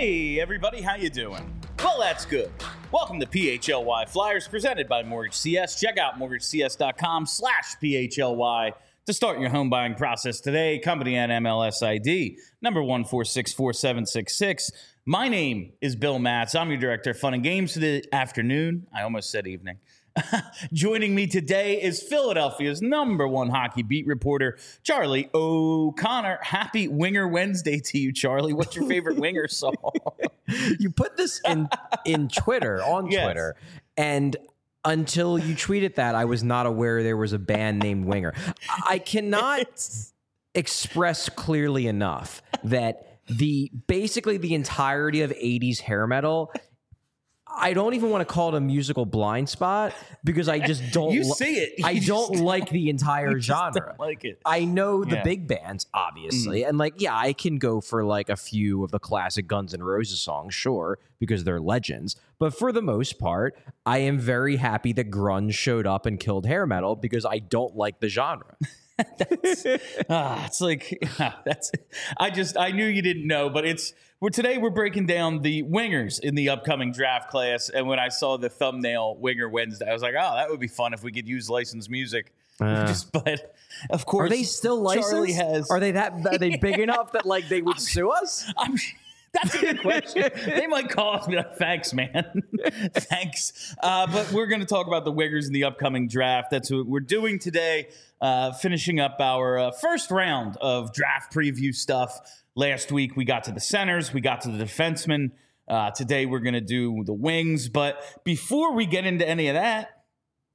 Hey, everybody, how you doing? Well, that's good. Welcome to PHLY Flyers presented by Mortgage CS. Check out mortgagecs.com/PHLY to start your home buying process today. Company and MLS ID number 1464766. My name is Bill Matz. I'm your director of fun and games for the afternoon. I almost said evening. Joining me today is Philadelphia's number one hockey beat reporter, Charlie O'Connor. Happy Winger Wednesday to you, Charlie. What's your favorite Winger song? You put this in Twitter, on Yes. Twitter, and until you tweeted that, I was not aware there was a band named Winger. I cannot express clearly enough that basically the entirety of 80s hair metal, I don't even want to call it a musical blind spot because I just don't. You see it. I don't like the entire genre. Don't like it. I know the big bands, obviously, and I can go for like a few of the classic Guns N' Roses songs, sure, because they're legends. But for the most part, I am very happy that grunge showed up and killed hair metal because I don't like the genre. It's like I knew you didn't know, but today we're breaking down the wingers in the upcoming draft class. And when I saw the thumbnail Winger Wednesday, I was like, oh, that would be fun if we could use licensed music. But of course, Are they still licensed? Charlie has. Are they big enough that like they would sue us? That's a good question. They might call us and be like, thanks, man. Thanks. But we're going to talk about the Wingers in the upcoming draft. That's what we're doing today, finishing up our first round of draft preview stuff. Last week, we got to the centers. We got to the defensemen. Today, we're going to do the wings. But before we get into any of that,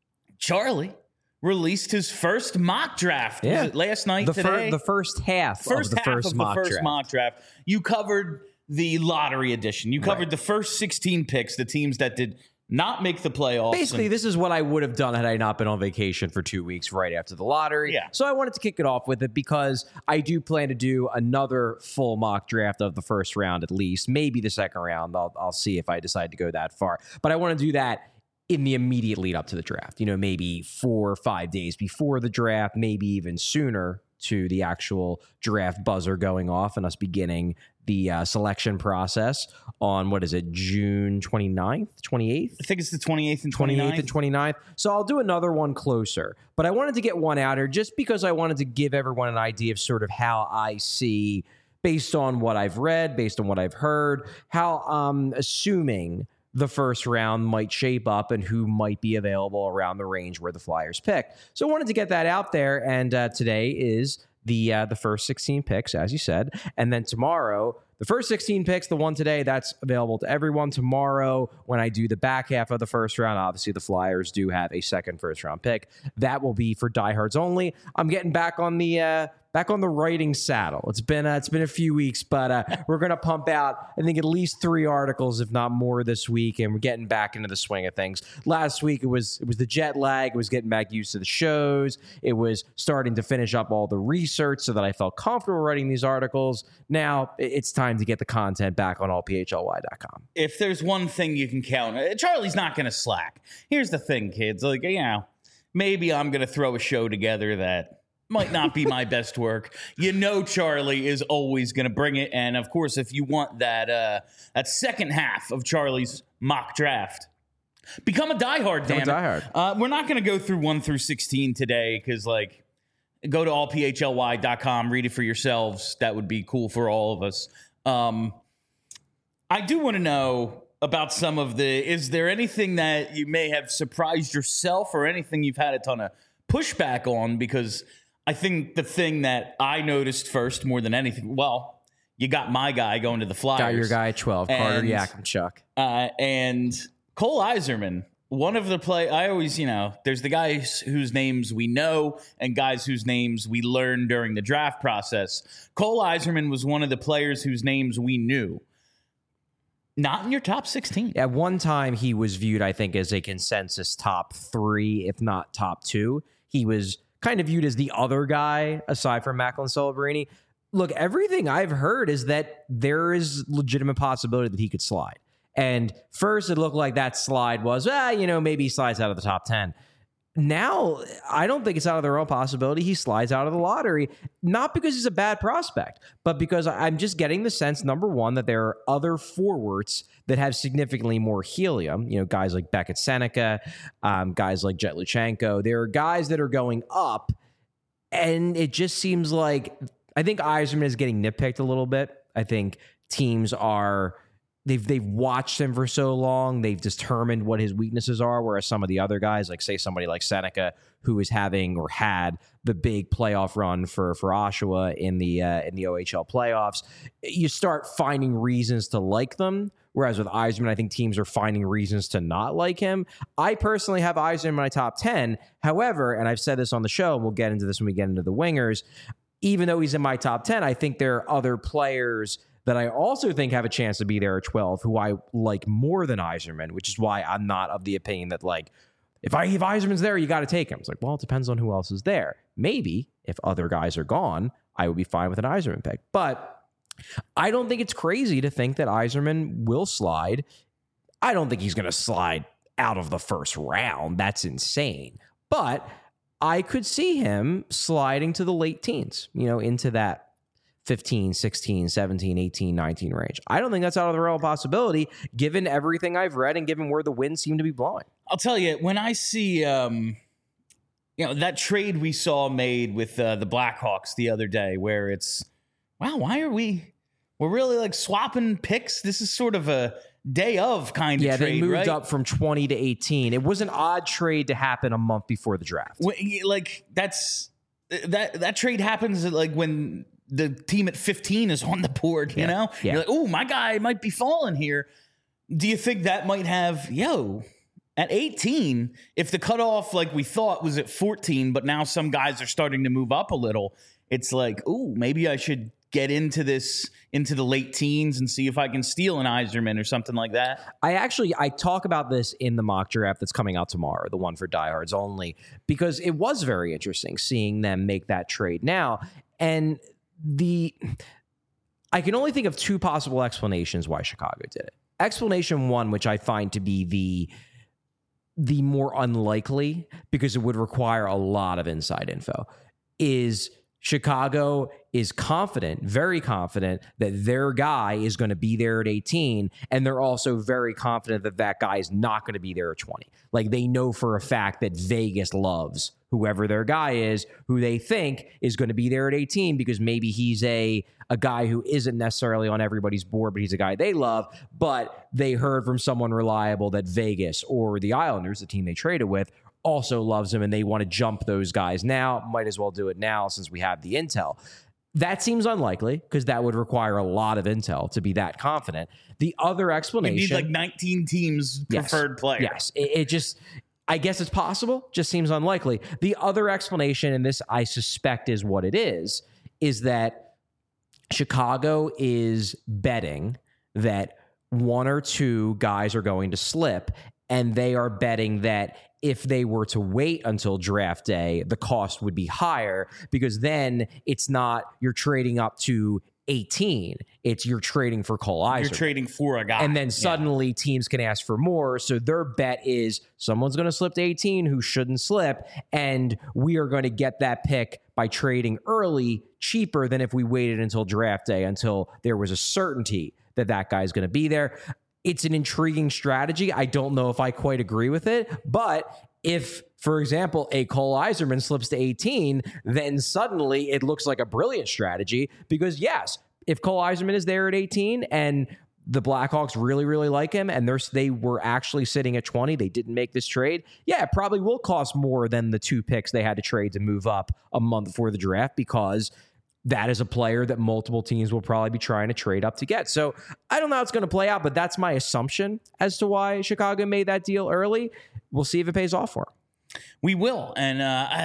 Charlie released his first mock draft. Yeah. Was it last night, today? The first half of the first mock draft. You covered the lottery edition. You covered the first 16 picks, the teams that did not make the playoffs. Basically, this is what I would have done had I not been on vacation for 2 weeks right after the lottery. Yeah. So I wanted to kick it off with it because I do plan to do another full mock draft of the first round at least, maybe the second round. I'll see if I decide to go that far. But I want to do that in the immediate lead up to the draft. Maybe 4 or 5 days before the draft, maybe even sooner to the actual draft buzzer going off and us beginning the selection process on, June 29th, 28th? I think it's the 28th and 29th. 28th and 29th. So I'll do another one closer. But I wanted to get one out here just because I wanted to give everyone an idea of sort of how I see, based on what I've read, based on what I've heard, how I'm assuming the first round might shape up and who might be available around the range where the Flyers pick. So I wanted to get that out there. And today is the first 16 picks, as you said. And then tomorrow, the first 16 picks, the one today, that's available to everyone. Tomorrow, when I do the back half of the first round, obviously the Flyers do have a second first-round pick. That will be for diehards only. I'm getting back on the writing saddle. It's been a few weeks, but we're going to pump out, I think, at least 3 articles, if not more, this week, and we're getting back into the swing of things. Last week, it was the jet lag. It was getting back used to the shows. It was starting to finish up all the research so that I felt comfortable writing these articles. Now, it's time to get the content back on allphly.com. If there's one thing you can count, Charlie's not going to slack. Here's the thing, kids. Maybe I'm going to throw a show together that might not be my best work. Charlie is always going to bring it. And, of course, if you want that second half of Charlie's mock draft, become a diehard, damn it. Diehard. We're not going to go through 1 through 16 today because, go to allphly.com, read it for yourselves. That would be cool for all of us. I do want to know about some of is there anything that you may have surprised yourself or anything you've had a ton of pushback on? Because I think the thing that I noticed first more than anything, you got my guy going to the Flyers. Got your guy at 12, Carter Yakimchuk. And Cole Eiserman, one of the I always, there's the guys whose names we know and guys whose names we learned during the draft process. Cole Eiserman was one of the players whose names we knew. Not in your top 16. At one time, he was viewed, I think, as a consensus top 3, if not top 2. He was kind of viewed as the other guy, aside from Macklin Celebrini. Look, everything I've heard is that there is legitimate possibility that he could slide. And first, it looked like that slide was, maybe he slides out of the top 10. now I don't think it's out of the realm of possibility he slides out of the lottery, not because he's a bad prospect, but because I'm just getting the sense, number one, that there are other forwards that have significantly more helium. You know, guys like Beckett Seneca, guys like Jet Luchenko. There are guys that are going up, and it just seems like I think Yzerman is getting nitpicked a little bit. I think teams are... They've watched him for so long. They've determined what his weaknesses are, whereas some of the other guys, like say somebody like Seneca, who is having or had the big playoff run for Oshawa in the OHL playoffs, you start finding reasons to like them. Whereas with Yzerman, I think teams are finding reasons to not like him. I personally have Yzerman in my top 10. However, and I've said this on the show, and we'll get into this when we get into the wingers, even though he's in my top 10, I think there are other players that I also think have a chance to be there at 12, who I like more than Yzerman, which is why I'm not of the opinion that, like, if Yzerman's there, you got to take him. It's like, well, it depends on who else is there. Maybe if other guys are gone, I would be fine with an Yzerman pick. But I don't think it's crazy to think that Yzerman will slide. I don't think he's going to slide out of the first round. That's insane. But I could see him sliding to the late teens, you know, into that 15, 16, 17, 18, 19 range. I don't think that's out of the realm of possibility, given everything I've read and given where the winds seem to be blowing. I'll tell you, when I see, that trade we saw made with the Blackhawks the other day, where it's, wow, why are we're really like swapping picks? This is sort of a day of kind of trade, they moved right? up from 20 to 18. It was an odd trade to happen a month before the draft. Like that trade happens like when the team at 15 is on the board, you know? Yeah. You're like, oh, my guy might be falling here. Do you think that might have, at 18, if the cutoff, like we thought, was at 14, but now some guys are starting to move up a little, it's like, oh, maybe I should get into the late teens and see if I can steal an Yzerman or something like that? I talk about this in the mock draft that's coming out tomorrow, the one for diehards only, because it was very interesting seeing them make that trade now. And I can only think of two possible explanations why Chicago did it. Explanation one, which I find to be the more unlikely, because it would require a lot of inside info, is Chicago is confident, very confident, that their guy is going to be there at 18, and they're also very confident that that guy is not going to be there at 20. Like, they know for a fact that Vegas loves whoever their guy is, who they think is going to be there at 18, because maybe he's a guy who isn't necessarily on everybody's board, but he's a guy they love, but they heard from someone reliable that Vegas or the Islanders, the team they traded with, also loves him, and they want to jump those guys now. Might as well do it now since we have the intel. That seems unlikely, because that would require a lot of intel to be that confident. The other explanation... You need like 19 teams preferred player. Yes. It just... I guess it's possible, just seems unlikely. The other explanation, and this I suspect is what it is that Chicago is betting that one or two guys are going to slip, and they are betting that if they were to wait until draft day, the cost would be higher, because then it's not you're trading up to 18. It's you're trading for Cole Yzerman. You're trading for a guy. And then suddenly teams can ask for more. So their bet is someone's going to slip to 18 who shouldn't slip. And we are going to get that pick by trading early, cheaper than if we waited until draft day, until there was a certainty that that guy's going to be there. It's an intriguing strategy. I don't know if I quite agree with it, but if, for example, a Cole Yzerman slips to 18, then suddenly it looks like a brilliant strategy, because yes, if Cole Yzerman is there at 18 and the Blackhawks really, really like him, and they were actually sitting at 20, they didn't make this trade, yeah, it probably will cost more than the two picks they had to trade to move up a month before the draft, because that is a player that multiple teams will probably be trying to trade up to get. So I don't know how it's going to play out, but that's my assumption as to why Chicago made that deal early. We'll see if it pays off for him. We will. And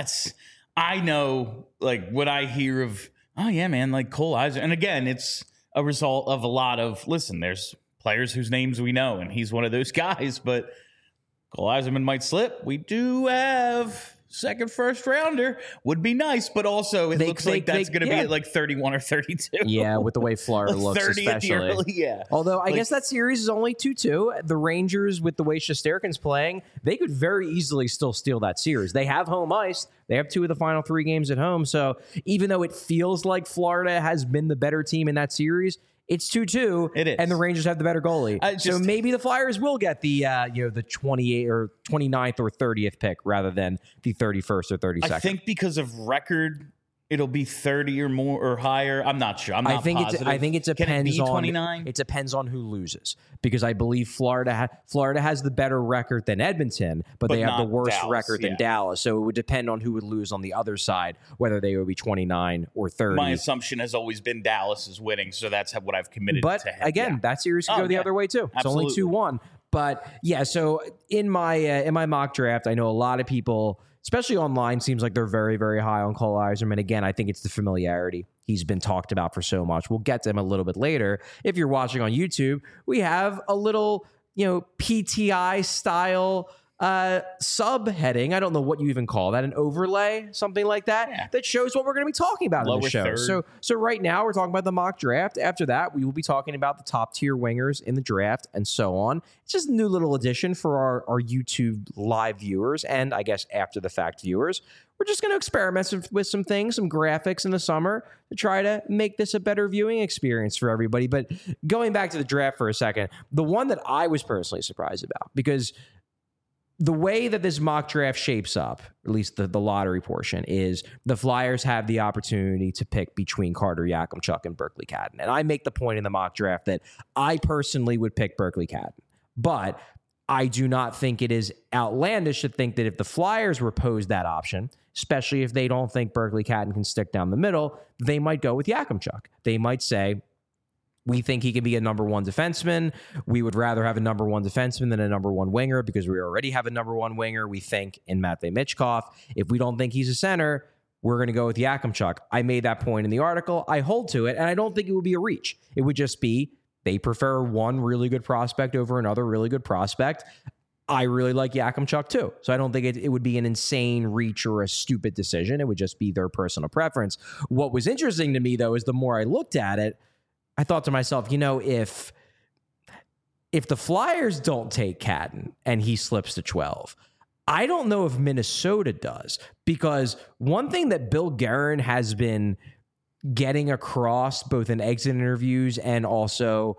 I know, like, what I hear of, oh, yeah, man, like Cole Yzerman. And again, it's a result of a lot of, listen, there's players whose names we know, and he's one of those guys, but Cole Yzerman might slip. We do have second first rounder would be nice, but also it looks like that's going to be at like 31 or 32. Yeah, with the way Florida looks, 30 especially. at the early, yeah. Although I guess that series is only 2-2. The Rangers, with the way Shesterkin's playing, they could very easily still steal that series. They have home ice. They have 2 of the final 3 games at home. So even though it feels like Florida has been the better team in that series, it's 2-2. It is. And the Rangers have the better goalie. So maybe the Flyers will get the the 28th or 29th or 30th pick rather than the 31st or 32nd. I think because of record, it'll be 30 or more or higher. I'm not sure. I'm not positive. I think it depends Can it be on 29? It depends on who loses, because I believe Florida has the better record than Edmonton, but they have the worst Dallas, record than Dallas. So it would depend on who would lose on the other side, whether they would be 29 or 30. My assumption has always been Dallas is winning, so that's what I've committed but to. But again, that series could go the other way too. It's only 2-1. But yeah, so in my mock draft, I know a lot of people, especially online, seems like they're very, very high on Cole Yzerman. Again, I think it's the familiarity. He's been talked about for so much. We'll get to him a little bit later. If you're watching on YouTube, we have a little, PTI style subheading. I don't know what you even call that, an overlay, something like that, that shows what we're going to be talking about in the show. Third. So right now we're talking about the mock draft. After that, we will be talking about the top tier wingers in the draft and so on. It's just a new little addition for our YouTube live viewers and I guess after the fact viewers. We're just going to experiment with some things, some graphics in the summer to try to make this a better viewing experience for everybody. But going back to the draft for a second, the one that I was personally surprised about, because the way that this mock draft shapes up, at least the lottery portion, is the Flyers have the opportunity to pick between Carter Yakimchuk and Berkeley Cadden. And I make the point in the mock draft that I personally would pick Berkeley Cadden. But I do not think it is outlandish to think that if the Flyers were posed that option, especially if they don't think Berkeley Cadden can stick down the middle, they might go with Yakimchuk. They might say, we think he can be a number 1 defenseman. We would rather have a number 1 defenseman than a number 1 winger because we already have a number 1 winger, we think, in Matvei Michkov. If we don't think he's a center, we're going to go with Yakimchuk. I made that point in the article. I hold to it, and I don't think it would be a reach. It would just be they prefer one really good prospect over another really good prospect. I really like Yakimchuk too. So I don't think it would be an insane reach or a stupid decision. It would just be their personal preference. What was interesting to me, though, is the more I looked at it, I thought to myself, if the Flyers don't take Cadden and he slips to 12, I don't know if Minnesota does, because one thing that Bill Guerin has been getting across both in exit interviews and also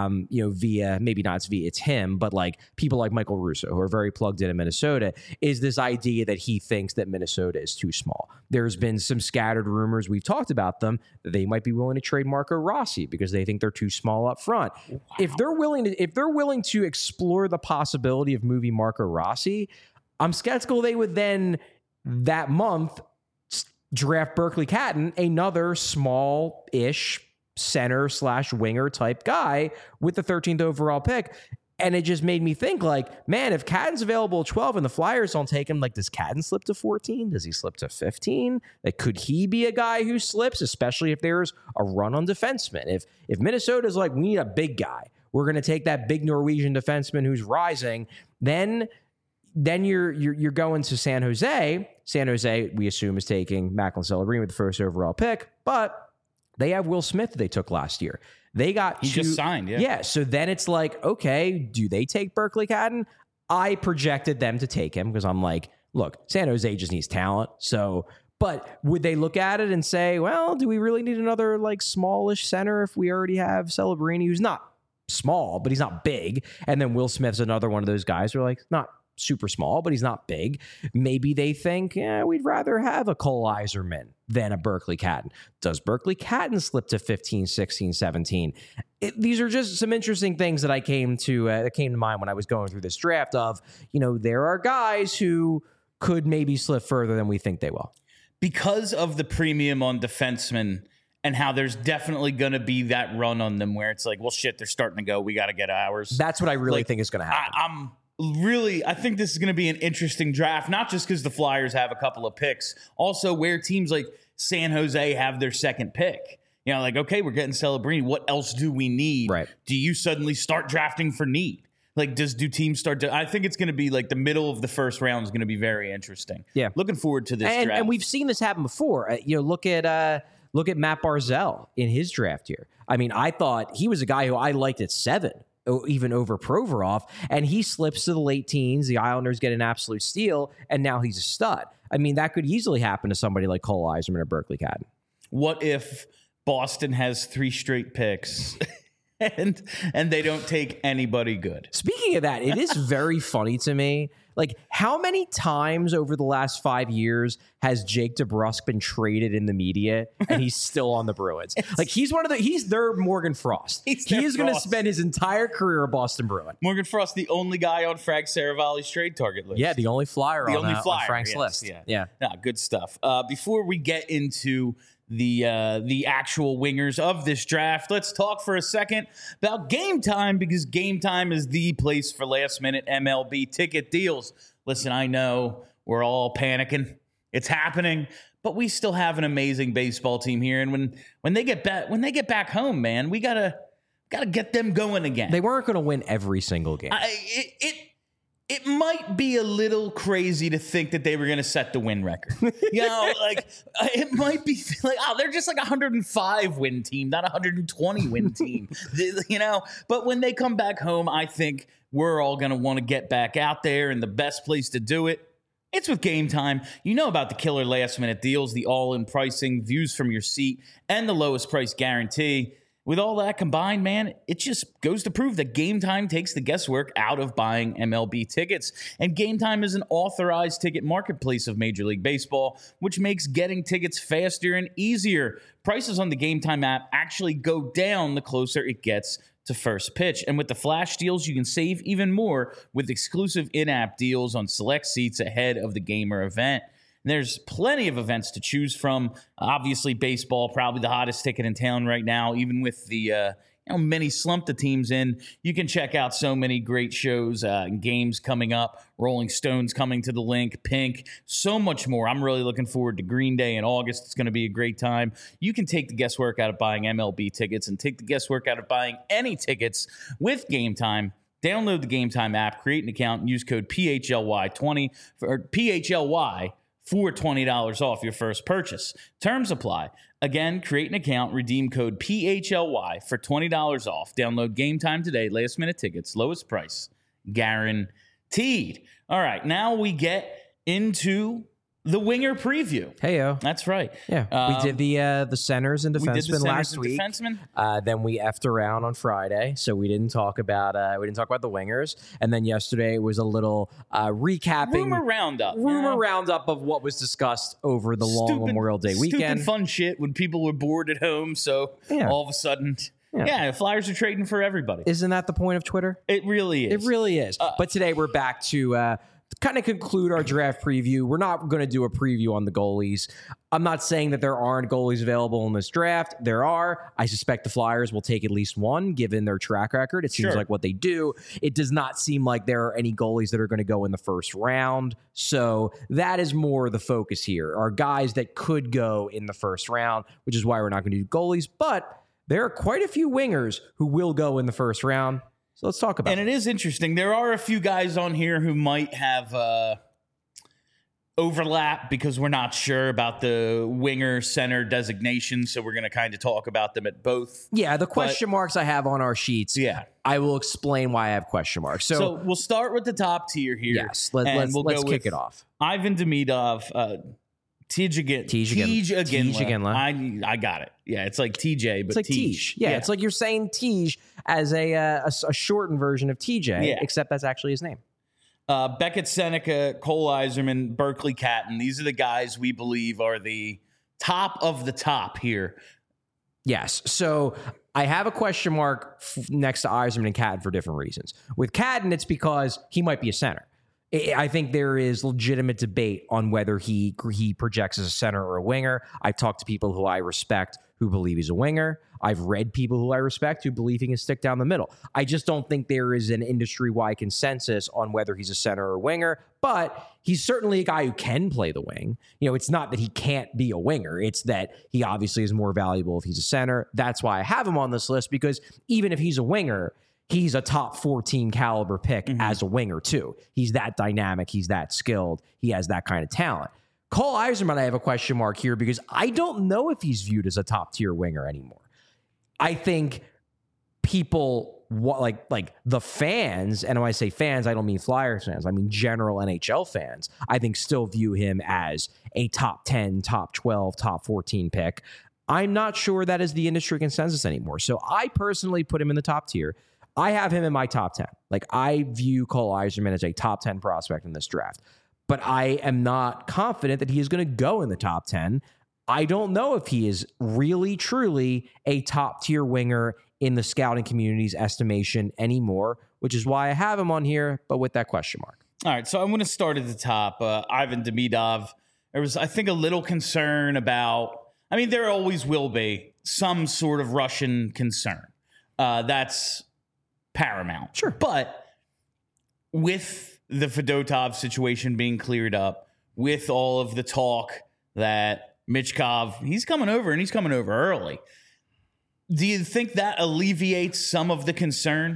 via, maybe not via it's him, but like people like Michael Russo, who are very plugged in Minnesota, is this idea that he thinks that Minnesota is too small. There's been some scattered rumors, we've talked about them, that they might be willing to trade Marco Rossi because they think they're too small up front. Wow. If they're willing to explore the possibility of moving Marco Rossi, I'm skeptical they would then that month draft Berkeley Cadden, another small-ish center/winger type guy with the 13th overall pick. And it just made me think, like, man, if Cadden's available at 12 and the Flyers don't take him, like, does Cadden slip to 14? Does he slip to 15? Like, could he be a guy who slips, especially if there's a run on defensemen? If Minnesota's like, we need a big guy, we're going to take that big Norwegian defenseman who's rising, then you're going to San Jose. San Jose, we assume, is taking Macklin Celebrini with the first overall pick, but they have Will Smith that they took last year. He just signed, yeah. Yeah, so then it's like, okay, do they take Berkeley Cadden? I projected them to take him because I'm like, look, San Jose just needs talent. So, but would they look at it and say, well, do we really need another like smallish center if we already have Celebrini, who's not small, but he's not big, and then Will Smith's another one of those guys who are like not super small, but he's not big. Maybe they think, we'd rather have a Cole Yzerman than a Berkeley Cadden. Does Berkeley Cadden slip to 15, 16, 17? These are just some interesting things that came to mind when I was going through this draft of, there are guys who could maybe slip further than we think they will. Because of the premium on defensemen and how there's definitely going to be that run on them where it's like, well, shit, they're starting to go. We got to get ours. That's what I really think is going to happen. I think this is going to be an interesting draft, not just because the Flyers have a couple of picks, also where teams like San Jose have their second pick. Like, okay, we're getting Celebrini. What else do we need? Right. Do you suddenly start drafting for need? Like, do teams start to? I think it's going to be like the middle of the first round is going to be very interesting. Yeah, looking forward to this draft. And we've seen this happen before. Look at Matt Barzell in his draft year. I mean, I thought he was a guy who I liked at 7, even over Provorov, and he slips to the late teens. The Islanders get an absolute steal, and now he's a stud. I mean, that could easily happen to somebody like Cole Yzerman or Berkeley Catton. What if Boston has 3 straight picks? And they don't take anybody good. Speaking of that, it is very funny to me. Like, how many times over the last 5 years has Jake DeBrusk been traded in the media and he's still on the Bruins? Like, he's their Morgan Frost. He is going to spend his entire career a Boston Bruin. Morgan Frost, the only guy on Frank Saravalli's trade target list. Yeah, the only flyer on Frank's list. Yeah. Nah, good stuff. Before we get into the actual wingers of this draft, let's talk for a second about Game Time, because Game Time is the place for last-minute MLB ticket deals. Listen, I know we're all panicking. It's happening, but we still have an amazing baseball team here. And when they get back home, man, we gotta get them going again. They weren't going to win every single game. It might be a little crazy to think that they were going to set the win record. Like it might be like, oh, they're just like a 105 win team, not a 120 win team. But when they come back home, I think we're all going to want to get back out there, and the best place to do it, it's with Game Time. You know about the killer last-minute deals, the all-in pricing, views from your seat, and the lowest price guarantee. With all that combined, man, it just goes to prove that Game Time takes the guesswork out of buying MLB tickets. And Game Time is an authorized ticket marketplace of Major League Baseball, which makes getting tickets faster and easier. Prices on the Game Time app actually go down the closer it gets to first pitch. And with the flash deals, you can save even more with exclusive in-app deals on select seats ahead of the game or event. There's plenty of events to choose from. Obviously, baseball, probably the hottest ticket in town right now, even with the many slump the teams in. You can check out so many great shows and games coming up. Rolling Stones coming to the link, Pink, so much more. I'm really looking forward to Green Day in August. It's going to be a great time. You can take the guesswork out of buying MLB tickets and take the guesswork out of buying any tickets with Game Time. Download the Game Time app, create an account, and use code PHLY20 for PHLY for $20 off your first purchase. Terms apply. Again, create an account, redeem code PHLY for $20 off. Download Game Time today. Last minute tickets, lowest price, guaranteed. All right, now we get into the winger preview. Heyo. That's right. Yeah, we did the centers and defensemen last week. Defensemen. Then we effed around on Friday, so we didn't talk about the wingers. And then yesterday was a little recapping rumor roundup of what was discussed over the long Memorial Day weekend. Stupid fun shit when people were bored at home. So all of a sudden. Yeah, Flyers are trading for everybody. Isn't that the point of Twitter? It really is. It really is. But today we're back to kind of conclude our draft preview. We're not going to do a preview on the goalies. I'm not saying that there aren't goalies available in this draft. There are. I suspect the Flyers will take at least one, given their track record. It seems like what they do. It does not seem like there are any goalies that are going to go in the first round. So that is more the focus here, are guys that could go in the first round, which is why we're not going to do goalies. But there are quite a few wingers who will go in the first round. So let's talk about it. And it is interesting. There are a few guys on here who might have overlap because we're not sure about the winger center designation. So we're going to kind of talk about them at both. Yeah, the question marks I have on our sheets. Yeah. I will explain why I have question marks. So we'll start with the top tier here. Yes, let's kick it off. Ivan Demidov, Tej Iginla. I got it. Yeah, it's like TJ, but it's like Tej. Yeah, it's like you're saying Tej as a shortened version of TJ, except that's actually his name. Beckett Seneca, Cole Yzerman, Berkeley Catton. These are the guys we believe are the top of the top here. Yes. So I have a question mark next to Yzerman and Catton for different reasons. With Catton, it's because he might be a center. I think there is legitimate debate on whether he projects as a center or a winger. I've talked to people who I respect who believe he's a winger. I've read people who I respect who believe he can stick down the middle. I just don't think there is an industry-wide consensus on whether he's a center or a winger, but he's certainly a guy who can play the wing. It's not that he can't be a winger. It's that he obviously is more valuable if he's a center. That's why I have him on this list, because even if he's a winger, he's a top 14 caliber pick as a winger too. He's that dynamic. He's that skilled. He has that kind of talent. Cole Yzerman, I have a question mark here because I don't know if he's viewed as a top tier winger anymore. I think people like the fans, and when I say fans, I don't mean Flyers fans. I mean general NHL fans. I think still view him as a top 10, top 12, top 14 pick. I'm not sure that is the industry consensus anymore. So I personally put him in the top tier. I have him in my top 10. Like, I view Cole Yzerman as a top 10 prospect in this draft, but I am not confident that he is going to go in the top 10. I don't know if he is really, truly a top tier winger in the scouting community's estimation anymore, which is why I have him on here, but with that question mark. All right, so I'm going to start at the top. Ivan Demidov. There was, I think, a little concern about, I mean, there always will be some sort of Russian concern. That's paramount. Sure. But with the Fedotov situation being cleared up, with all of the talk that Michkov, he's coming over, and he's coming over early. Do you think that alleviates some of the concern?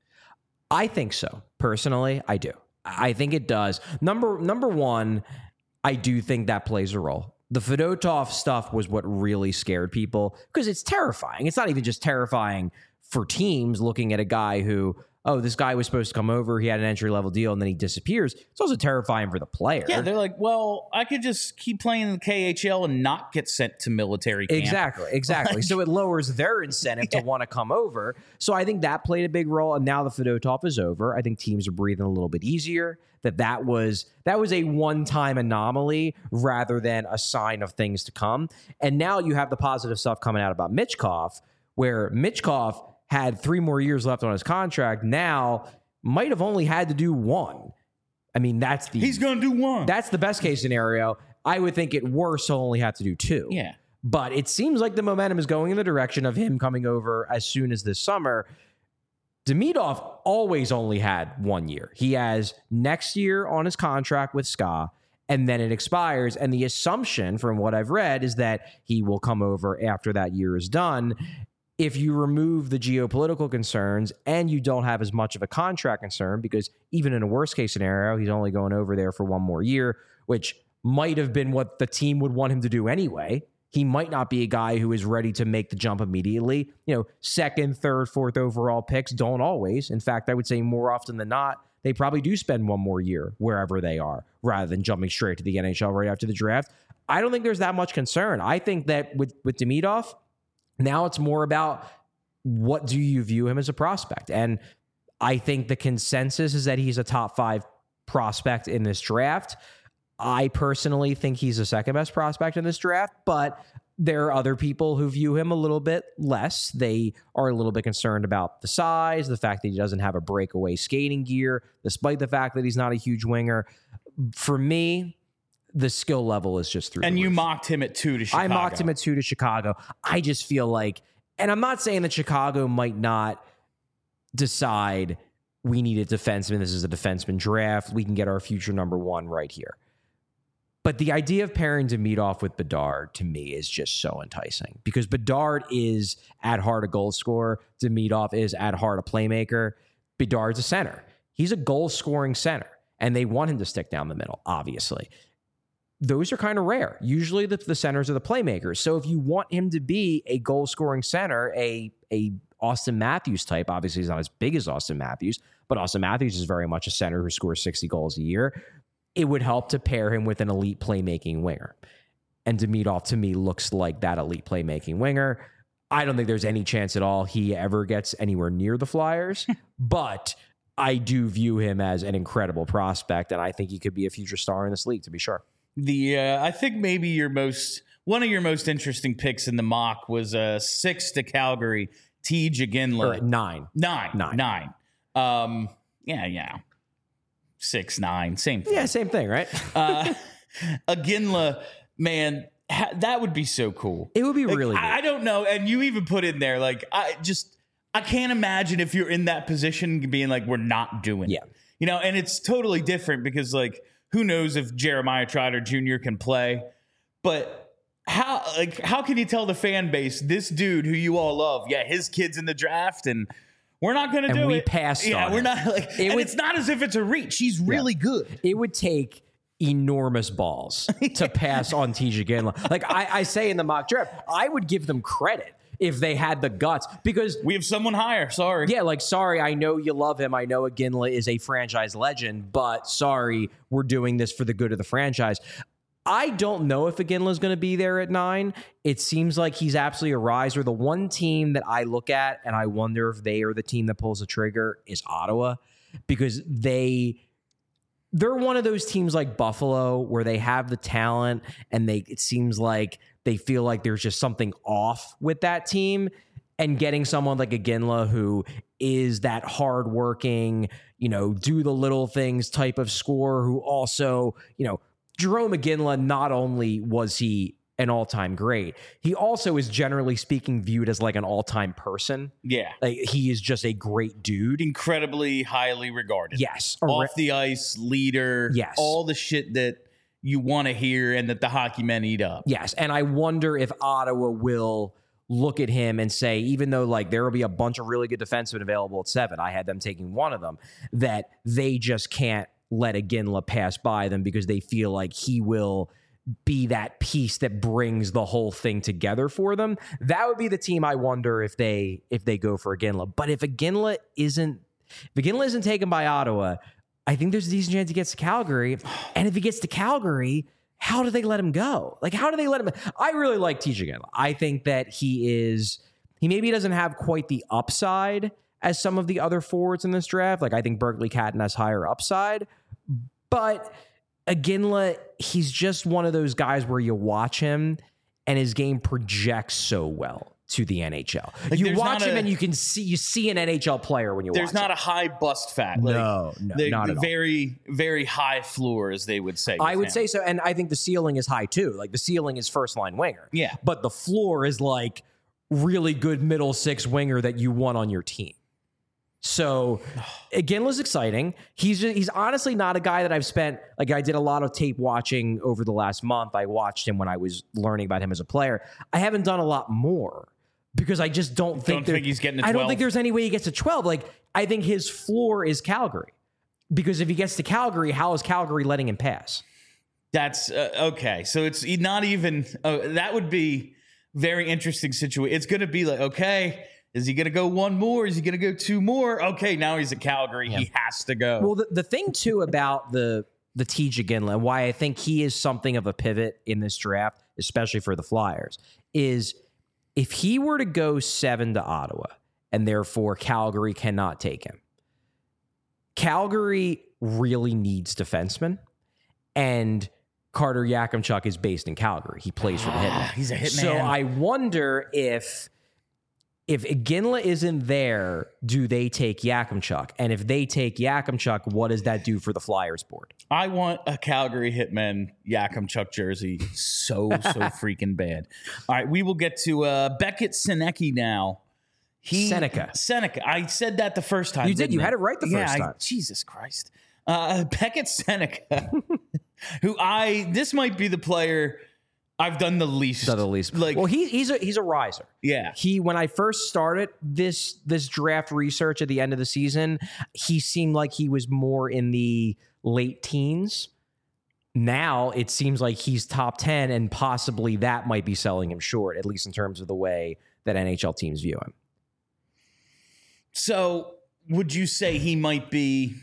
I think so. Personally, I do. I think it does. Number one, I do think that plays a role. The Fedotov stuff was what really scared people because it's terrifying. It's not even just terrifying for teams looking at a guy who, oh, this guy was supposed to come over, he had an entry-level deal, and then he disappears. It's also terrifying for the player. Yeah, they're like, well, I could just keep playing in the KHL and not get sent to military camp. Exactly. So it lowers their incentive to want to come over. So I think that played a big role, and now the Fedotov is over. I think teams are breathing a little bit easier, that was a one-time anomaly rather than a sign of things to come. And now you have the positive stuff coming out about Michkov, where Michkov had 3 more years left on his contract, now might have only had to do 1. I mean, he's going to do 1. That's the best case scenario. I would think at worst he'll only have to do 2. Yeah. But it seems like the momentum is going in the direction of him coming over as soon as this summer. Demidov always only had 1 year. He has next year on his contract with SKA, and then it expires. And the assumption from what I've read is that he will come over after that year is done. If you remove the geopolitical concerns and you don't have as much of a contract concern, because even in a worst case scenario, he's only going over there for 1 more year, which might have been what the team would want him to do anyway. He might not be a guy who is ready to make the jump immediately. You know, 2nd, 3rd, 4th overall picks don't always. In fact, I would say more often than not, they probably do spend 1 more year wherever they are rather than jumping straight to the NHL right after the draft. I don't think there's that much concern. I think that with Demidov, now it's more about what do you view him as a prospect? And I think the consensus is that he's a top 5 prospect in this draft. I personally think he's the 2nd best prospect in this draft, but there are other people who view him a little bit less. They are a little bit concerned about the size, the fact that he doesn't have a breakaway skating gear, despite the fact that he's not a huge winger. For me, the skill level is just through. And you roof. Mocked him at 2 to Chicago. I mocked him at 2 to Chicago. I just feel like, and I'm not saying that Chicago might not decide we need a defenseman. This is a defenseman draft. We can get our future number 1 right here. But the idea of pairing Demidov with Bedard, to me, is just so enticing. Because Bedard is at heart a goal scorer. Demidov is at heart a playmaker. Bedard's a center. He's a goal-scoring center. And they want him to stick down the middle, obviously. Those are kind of rare. Usually the centers are the playmakers. So if you want him to be a goal-scoring center, a Austin Matthews type, obviously he's not as big as Austin Matthews, but Austin Matthews is very much a center who scores 60 goals a year. It would help to pair him with an elite playmaking winger. And Demidov, to me, looks like that elite playmaking winger. I don't think there's any chance at all he ever gets anywhere near the Flyers, but I do view him as an incredible prospect, and I think he could be a future star in this league, to be sure. I think maybe one of your most interesting picks in the mock was 6 to Calgary, Tej Iginla. 9. 9. Yeah. 6, 9, same thing. Yeah, same thing, right? Iginla, man, that would be so cool. It would be really good. I don't know. And you even put in there, like, I can't imagine if you're in that position being like, we're not doing it. You know, and it's totally different because, like, who knows if Jeremiah Trotter Jr. can play. But how can you tell the fan base, this dude who you all love, his kid's in the draft and we're not going to And do we it. passed Yeah, on we're it. not like, it's not as if it's a reach. She's really good. It would take enormous balls to pass on Tisha Ginla. Like I say in the mock draft, I would give them credit if they had the guts, because We have someone higher. Sorry. yeah, like, sorry, I know you love him. I know Ginla is a franchise legend, but sorry, we're doing this for the good of the franchise. I don't know if Ginla is going to be there at 9. It seems like he's absolutely a riser. The one team that I look at and I wonder if they are the team that pulls the trigger is Ottawa, because they're one of those teams like Buffalo where they have the talent and it seems like they feel like there's just something off with that team. And getting someone like Ginla who is that hardworking, do the little things type of scorer, who also, Jerome Ginla, not only was he an all-time great, he also is generally speaking viewed as like an all-time person. Yeah. Like, he is just a great dude. Incredibly highly regarded. Yes. Off the ice, leader. Yes. All the shit that you want to hear and that the hockey men eat up. Yes. And I wonder if Ottawa will look at him and say, even though like there will be a bunch of really good defensemen available at 7, I had them taking one of them, that they just can't let Ginla pass by them because they feel like he will be that piece that brings the whole thing together for them. That would be the team I wonder if they go for Ginla. But if Ginla isn't taken by Ottawa, I think there's a decent chance he gets to Calgary. And if he gets to Calgary, how do they let him go? Like, how do they let him? I really like Tisha Ginla. I think that he maybe doesn't have quite the upside as some of the other forwards in this draft. Like, I think Berkeley Catton has higher upside, but Ginla, he's just one of those guys where you watch him and his game projects so well to the NHL. Like, you watch him and you see an NHL player when you watch him. There's not a high bust fat. Like, No, not at all. Very, very high floor, as they would say. I would say so, and I think the ceiling is high too. Like, the ceiling is first line winger. Yeah. But the floor is like really good middle six winger that you want on your team. So Ginla's exciting. He's honestly not a guy that I've spent, like, I did a lot of tape watching over the last month. I watched him when I was learning about him as a player. I haven't done a lot more because I just don't think he's getting to 12. I don't think there's any way he gets to 12. Like, I think his floor is Calgary, because if he gets to Calgary, how is Calgary letting him pass? That's okay. So it's not even, that would be very interesting situation. It's going to be like, okay, is he going to go one more? Is he going to go two more? Okay, now he's at Calgary. Yeah. He has to go. Well, the thing, too, about the Tisha Ginla, why I think he is something of a pivot in this draft, especially for the Flyers, is if he were to go 7 to Ottawa, and therefore Calgary cannot take him, Calgary really needs defensemen, and Carter Yakimchuk is based in Calgary. He plays for the Hitmen. He's a hitman. So I wonder if Ginla isn't there, do they take Yakimchuk? And if they take Yakimchuk, what does that do for the Flyers board? I want a Calgary Hitmen Yakimchuk jersey so freaking bad. All right, we will get to Beckett Senecki now. Seneca. I said that the first time. You did. You had it right the first time. Jesus Christ. Beckett Seneca, who this might be the player I've done the least. Like, well, he's a riser. Yeah. When I first started this draft research at the end of the season, he seemed like he was more in the late teens. Now it seems like he's top 10, and possibly that might be selling him short, at least in terms of the way that NHL teams view him. So would you say he might be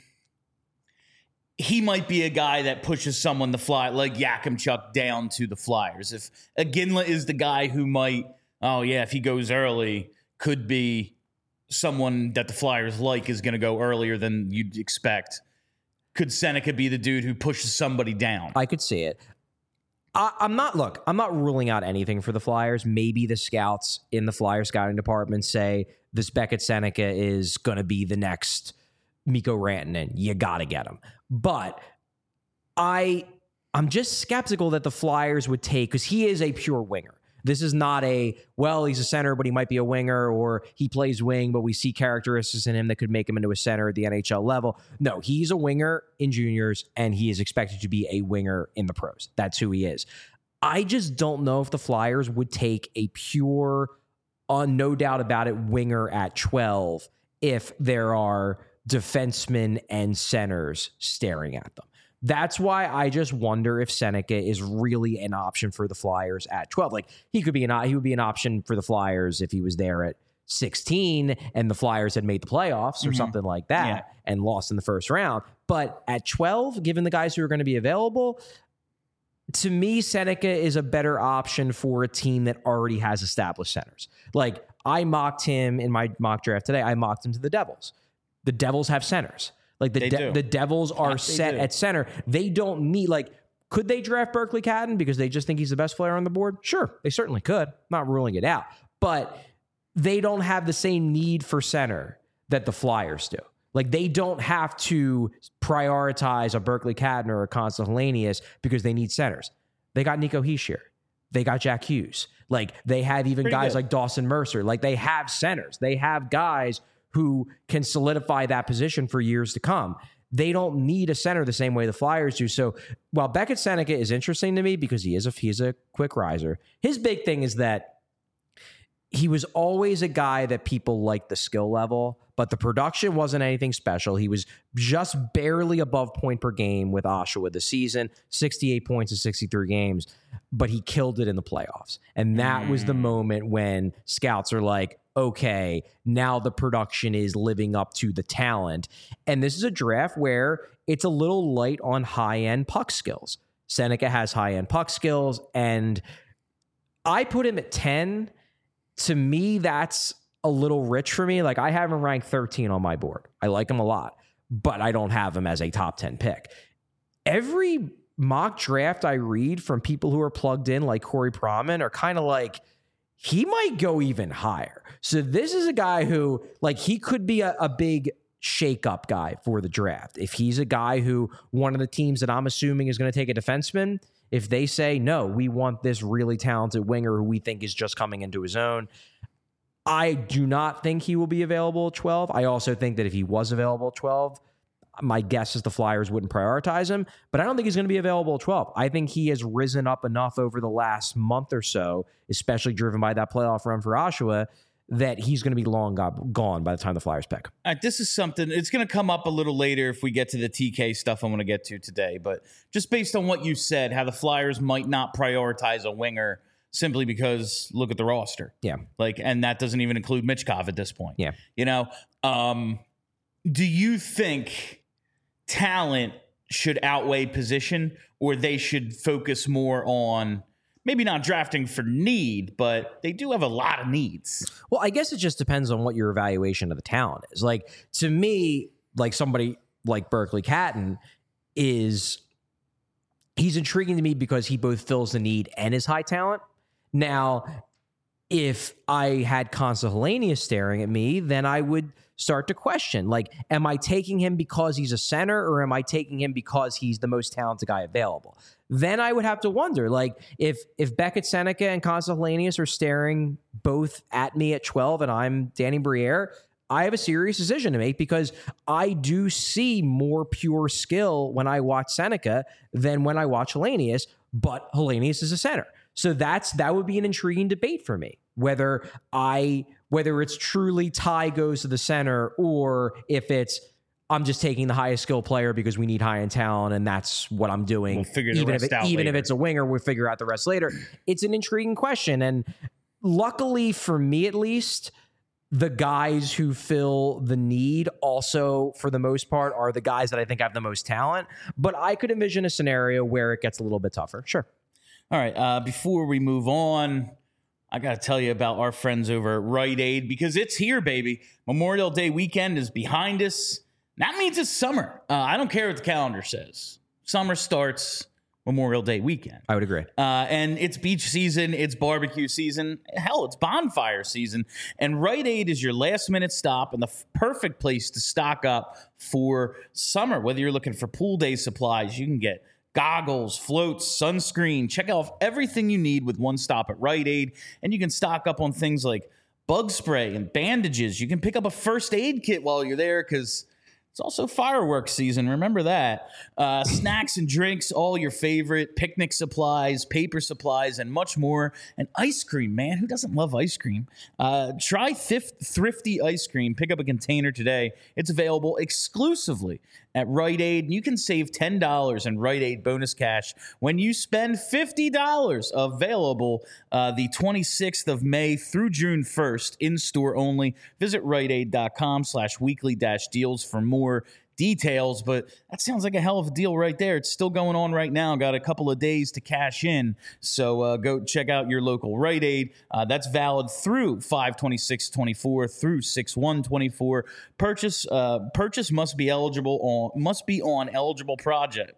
a guy that pushes someone to fly, like Yakimchuk, down to the Flyers? If Ginla is the guy who might, if he goes early, could be someone that the Flyers like is going to go earlier than you'd expect. Could Seneca be the dude who pushes somebody down? I could see it. I'm not ruling out anything for the Flyers. Maybe the scouts in the Flyers scouting department say this Beckett Seneca is going to be the next Mikko Rantanen. You got to get him. But I'm just skeptical that the Flyers would take, because he is a pure winger. This is not he's a center, but he might be a winger, or he plays wing, but we see characteristics in him that could make him into a center at the NHL level. No, he's a winger in juniors, and he is expected to be a winger in the pros. That's who he is. I just don't know if the Flyers would take a pure, no doubt about it, winger at 12 if there are defensemen and centers staring at them. That's why I just wonder if Seneca is really an option for the Flyers at 12. Like he would be an option for the Flyers if he was there at 16 and the Flyers had made the playoffs or something like that and lost in the first round. But at 12, given the guys who are going to be available, to me, Seneca is a better option for a team that already has established centers. Like I mocked him in my mock draft today. I mocked him to the Devils. The Devils have centers. Like the Devils are set at center. They don't need, like, could they draft Berkeley Catton because they just think he's the best player on the board? Sure, they certainly could. Not ruling it out. But they don't have the same need for center that the Flyers do. Like they don't have to prioritize a Berkeley Catton or a Constance Helenius because they need centers. They got Nico Hischier. They got Jack Hughes. Like they have even guys like Dawson Mercer. Like they have centers. They have guys who can solidify that position for years to come. They don't need a center the same way the Flyers do. So while Beckett Seneca is interesting to me because he's a quick riser, his big thing is that he was always a guy that people liked the skill level, but the production wasn't anything special. He was just barely above point per game with Oshawa this season, 68 points in 63 games, but he killed it in the playoffs. And that was the moment when scouts are like, okay, now the production is living up to the talent. And this is a draft where it's a little light on high-end puck skills. Seneca has high-end puck skills, and I put him at 10. To me, that's a little rich for me. Like I have him ranked 13 on my board. I like him a lot, but I don't have him as a top 10 pick. Every mock draft I read from people who are plugged in, like Corey Proman, are kind of like, he might go even higher. So this is a guy who, like, he could be a big shake-up guy for the draft. If he's a guy who one of the teams that I'm assuming is going to take a defenseman, if they say, no, we want this really talented winger who we think is just coming into his own, I do not think he will be available at 12. I also think that if he was available at 12, my guess is the Flyers wouldn't prioritize him, but I don't think he's going to be available at 12. I think he has risen up enough over the last month or so, especially driven by that playoff run for Oshawa, that he's going to be long gone by the time the Flyers pick. All right, this is something, it's going to come up a little later if we get to the TK stuff I want to get to today, but just based on what you said, how the Flyers might not prioritize a winger simply because look at the roster. Yeah. Like, and that doesn't even include Michkov at this point. Yeah. You know, do you think talent should outweigh position, or they should focus more on maybe not drafting for need, but they do have a lot of needs? Well, I guess it just depends on what your evaluation of the talent is. Like, to me, like somebody like Berkeley Catton he's intriguing to me because he both fills the need and is high talent. Now, if I had Constance Helenius staring at me, then I would start to question, like, am I taking him because he's a center, or am I taking him because he's the most talented guy available? Then I would have to wonder, like, if Beckett Seneca and Constance Helenius are staring both at me at 12 and I'm Danny Briere, I have a serious decision to make because I do see more pure skill when I watch Seneca than when I watch Helenius, but Helenius is a center. So that would be an intriguing debate for me, whether it's truly Ty goes to the center, or if it's I'm just taking the highest skill player because we need high-end talent, and that's what I'm doing. We'll figure the rest out even later. if it's a winger, we'll figure out the rest later. It's an intriguing question, and luckily for me at least, the guys who fill the need also, for the most part, are the guys that I think have the most talent. But I could envision a scenario where it gets a little bit tougher. Sure. All right. Before we move on, I got to tell you about our friends over at Rite Aid, because it's here, baby. Memorial Day weekend is behind us. That means it's summer. I don't care what the calendar says. Summer starts Memorial Day weekend. I would agree. And it's beach season, it's barbecue season, hell, it's bonfire season. And Rite Aid is your last-minute stop and the perfect place to stock up for summer. Whether you're looking for pool day supplies, you can get goggles, floats, sunscreen. Check out everything you need with one stop at Rite Aid. And you can stock up on things like bug spray and bandages. You can pick up a first aid kit while you're there, because It's also fireworks season. Remember that. Snacks and drinks, all your favorite, picnic supplies, paper supplies, and much more. And ice cream, man. Who doesn't love ice cream? Try Thrifty Ice Cream. Pick up a container today. It's available exclusively at Rite Aid. And you can save $10 in Rite Aid bonus cash when you spend $50. Available the 26th of May through June 1st, in-store only. Visit riteaid.com/weekly-deals for more details, but that sounds like a hell of a deal right there. It's still going on right now. Got a couple of days to cash in, so go check out your local Rite Aid. That's valid through 5/26/24 through 6/1/24. Purchase must be on eligible project.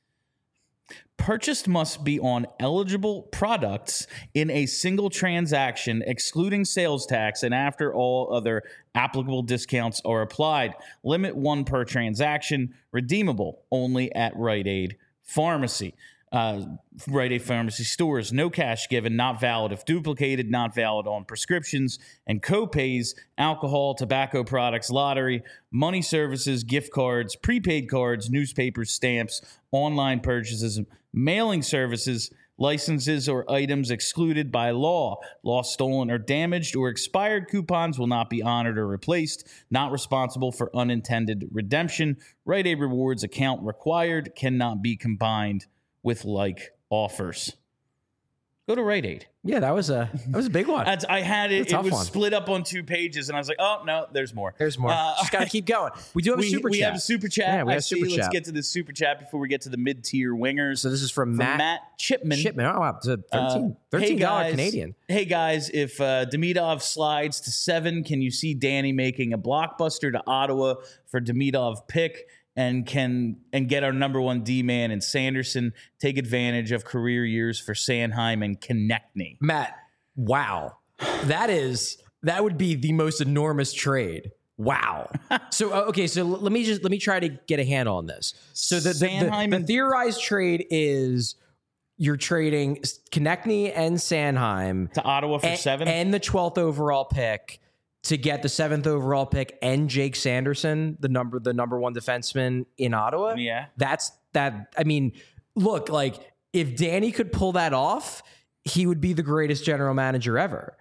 Purchased must be on eligible products in a single transaction, excluding sales tax, and after all other applicable discounts are applied. Limit 1 per transaction. Redeemable only at Rite Aid Pharmacy. Rite Aid Pharmacy stores. No cash given. Not valid if duplicated. Not valid on prescriptions and co-pays, alcohol, tobacco products, lottery, money services, gift cards, prepaid cards, newspapers, stamps, online purchases, mailing services, licenses, or items excluded by law. Lost, stolen, or damaged or expired coupons will not be honored or replaced. Not responsible for unintended redemption. Rite Aid Rewards account required. Cannot be combined with like offers. Go to Rite Aid. Yeah, that was a big one. I had it. It was one. split up on 2 pages, and I was like, "Oh no, there's more. There's more. Just got to keep going." We do have a super chat. We have a super chat. Yeah, we have a super chat. Let's get to the super chat before we get to the mid-tier wingers. So this is from Matt Chipman. Oh wow, it's a $13 Canadian. Hey guys, if Demidov slides to 7, can you see Danny making a blockbuster to Ottawa for Demidov pick? And get our number 1 D-man in Sanderson, take advantage of career years for Sanheim and Konechny. Matt, wow. That would be the most enormous trade. Wow. So let me try to get a handle on this. So the theorized trade is you're trading Konechny and Sanheim to Ottawa for 7 and the 12th overall pick to get the 7th overall pick and Jake Sanderson, the number 1 defenseman in Ottawa. Yeah. That's that. I mean, look, like if Danny could pull that off, he would be the greatest general manager ever.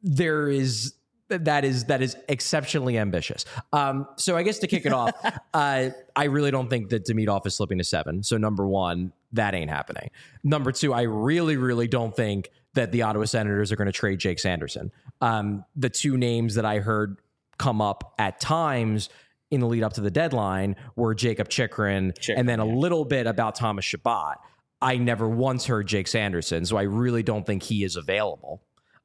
That is exceptionally ambitious. So I guess to kick it off, I really don't think that Demidov is slipping to 7. So number 1, that ain't happening. Number 2, I really, really don't think that the Ottawa Senators are going to trade Jake Sanderson. The 2 names that I heard come up at times in the lead up to the deadline were Jacob Chychrun and then a little bit about Thomas Chabot. I never once heard Jake Sanderson, so I really don't think he is available.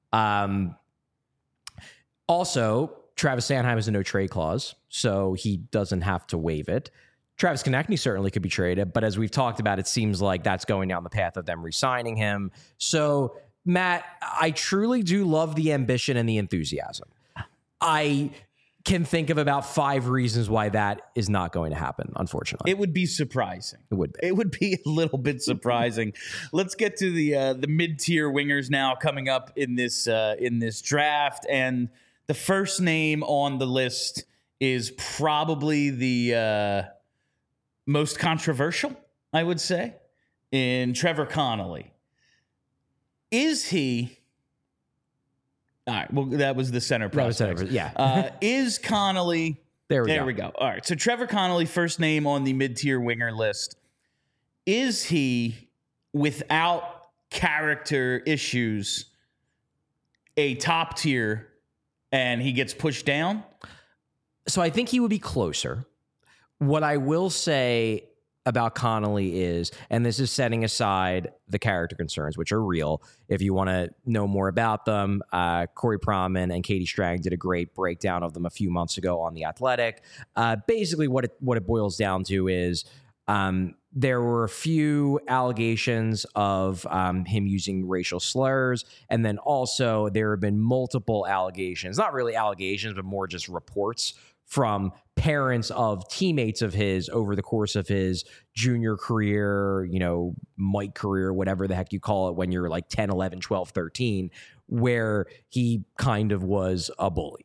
Also, Travis Sanheim has a no-trade clause, so he doesn't have to waive it. Travis Konechny certainly could be traded, but as we've talked about, it seems like that's going down the path of them re-signing him. So, Matt, I truly do love the ambition and the enthusiasm. I can think of about 5 reasons why that is not going to happen, unfortunately. It would be surprising. It would be. It would be a little bit surprising. Let's get to the mid-tier wingers now coming up in this draft. And the first name on the list is probably the most controversial, I would say, in Trevor Connolly. Is he... All right, well, that was the center prospect. Yeah. Is Connolly... There we go. All right, so Trevor Connolly, first name on the mid-tier winger list. Is he, without character issues, a top tier and he gets pushed down? So I think he would be closer. What I will say about Connolly is, and this is setting aside the character concerns, which are real. If you want to know more about them, Corey Proman and Katie Strang did a great breakdown of them a few months ago on The Athletic. Basically, what it boils down to is there were a few allegations of him using racial slurs, and then also there have been multiple allegations, not really allegations, but more just reports from parents of teammates of his over the course of his junior career, Mike career, whatever the heck you call it when you're like 10, 11, 12, 13, where he kind of was a bully.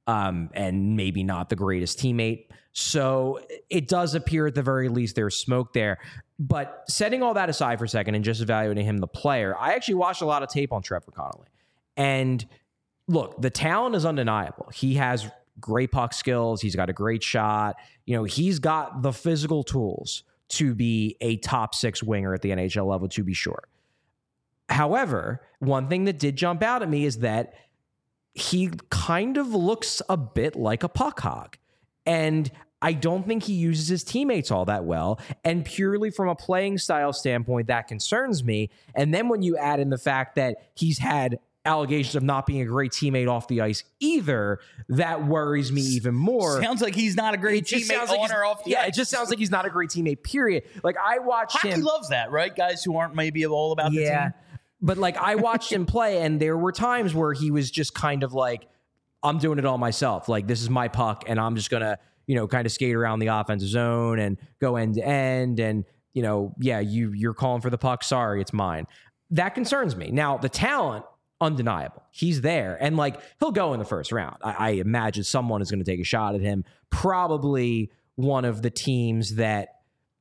and maybe not the greatest teammate. So it does appear at the very least there's smoke there. But setting all that aside for a second and just evaluating him, the player, I actually watched a lot of tape on Trevor Connolly. And look, the talent is undeniable. He has great puck skills. He's got a great shot. He's got the physical tools to be a top 6 winger at the NHL level, to be sure. However, one thing that did jump out at me is that he kind of looks a bit like a puck hog. And I don't think he uses his teammates all that well. And purely from a playing style standpoint, that concerns me. And then when you add in the fact that he's had allegations of not being a great teammate off the ice either, that worries me even more. Sounds like he's not a great teammate on or off the ice. Yeah, it just sounds like he's not a great teammate, period. Like, I watched him. Hockey loves that, right? Guys who aren't maybe all about the team. But like, I watched him play, and there were times where he was just kind of like, I'm doing it all myself. Like, this is my puck, and I'm just going to, kind of skate around the offensive zone and go end to end. And, you're calling for the puck. Sorry, it's mine. That concerns me. Now, the talent, undeniable. He's there. And like, he'll go in the first round. I imagine someone is going to take a shot at him. Probably one of the teams that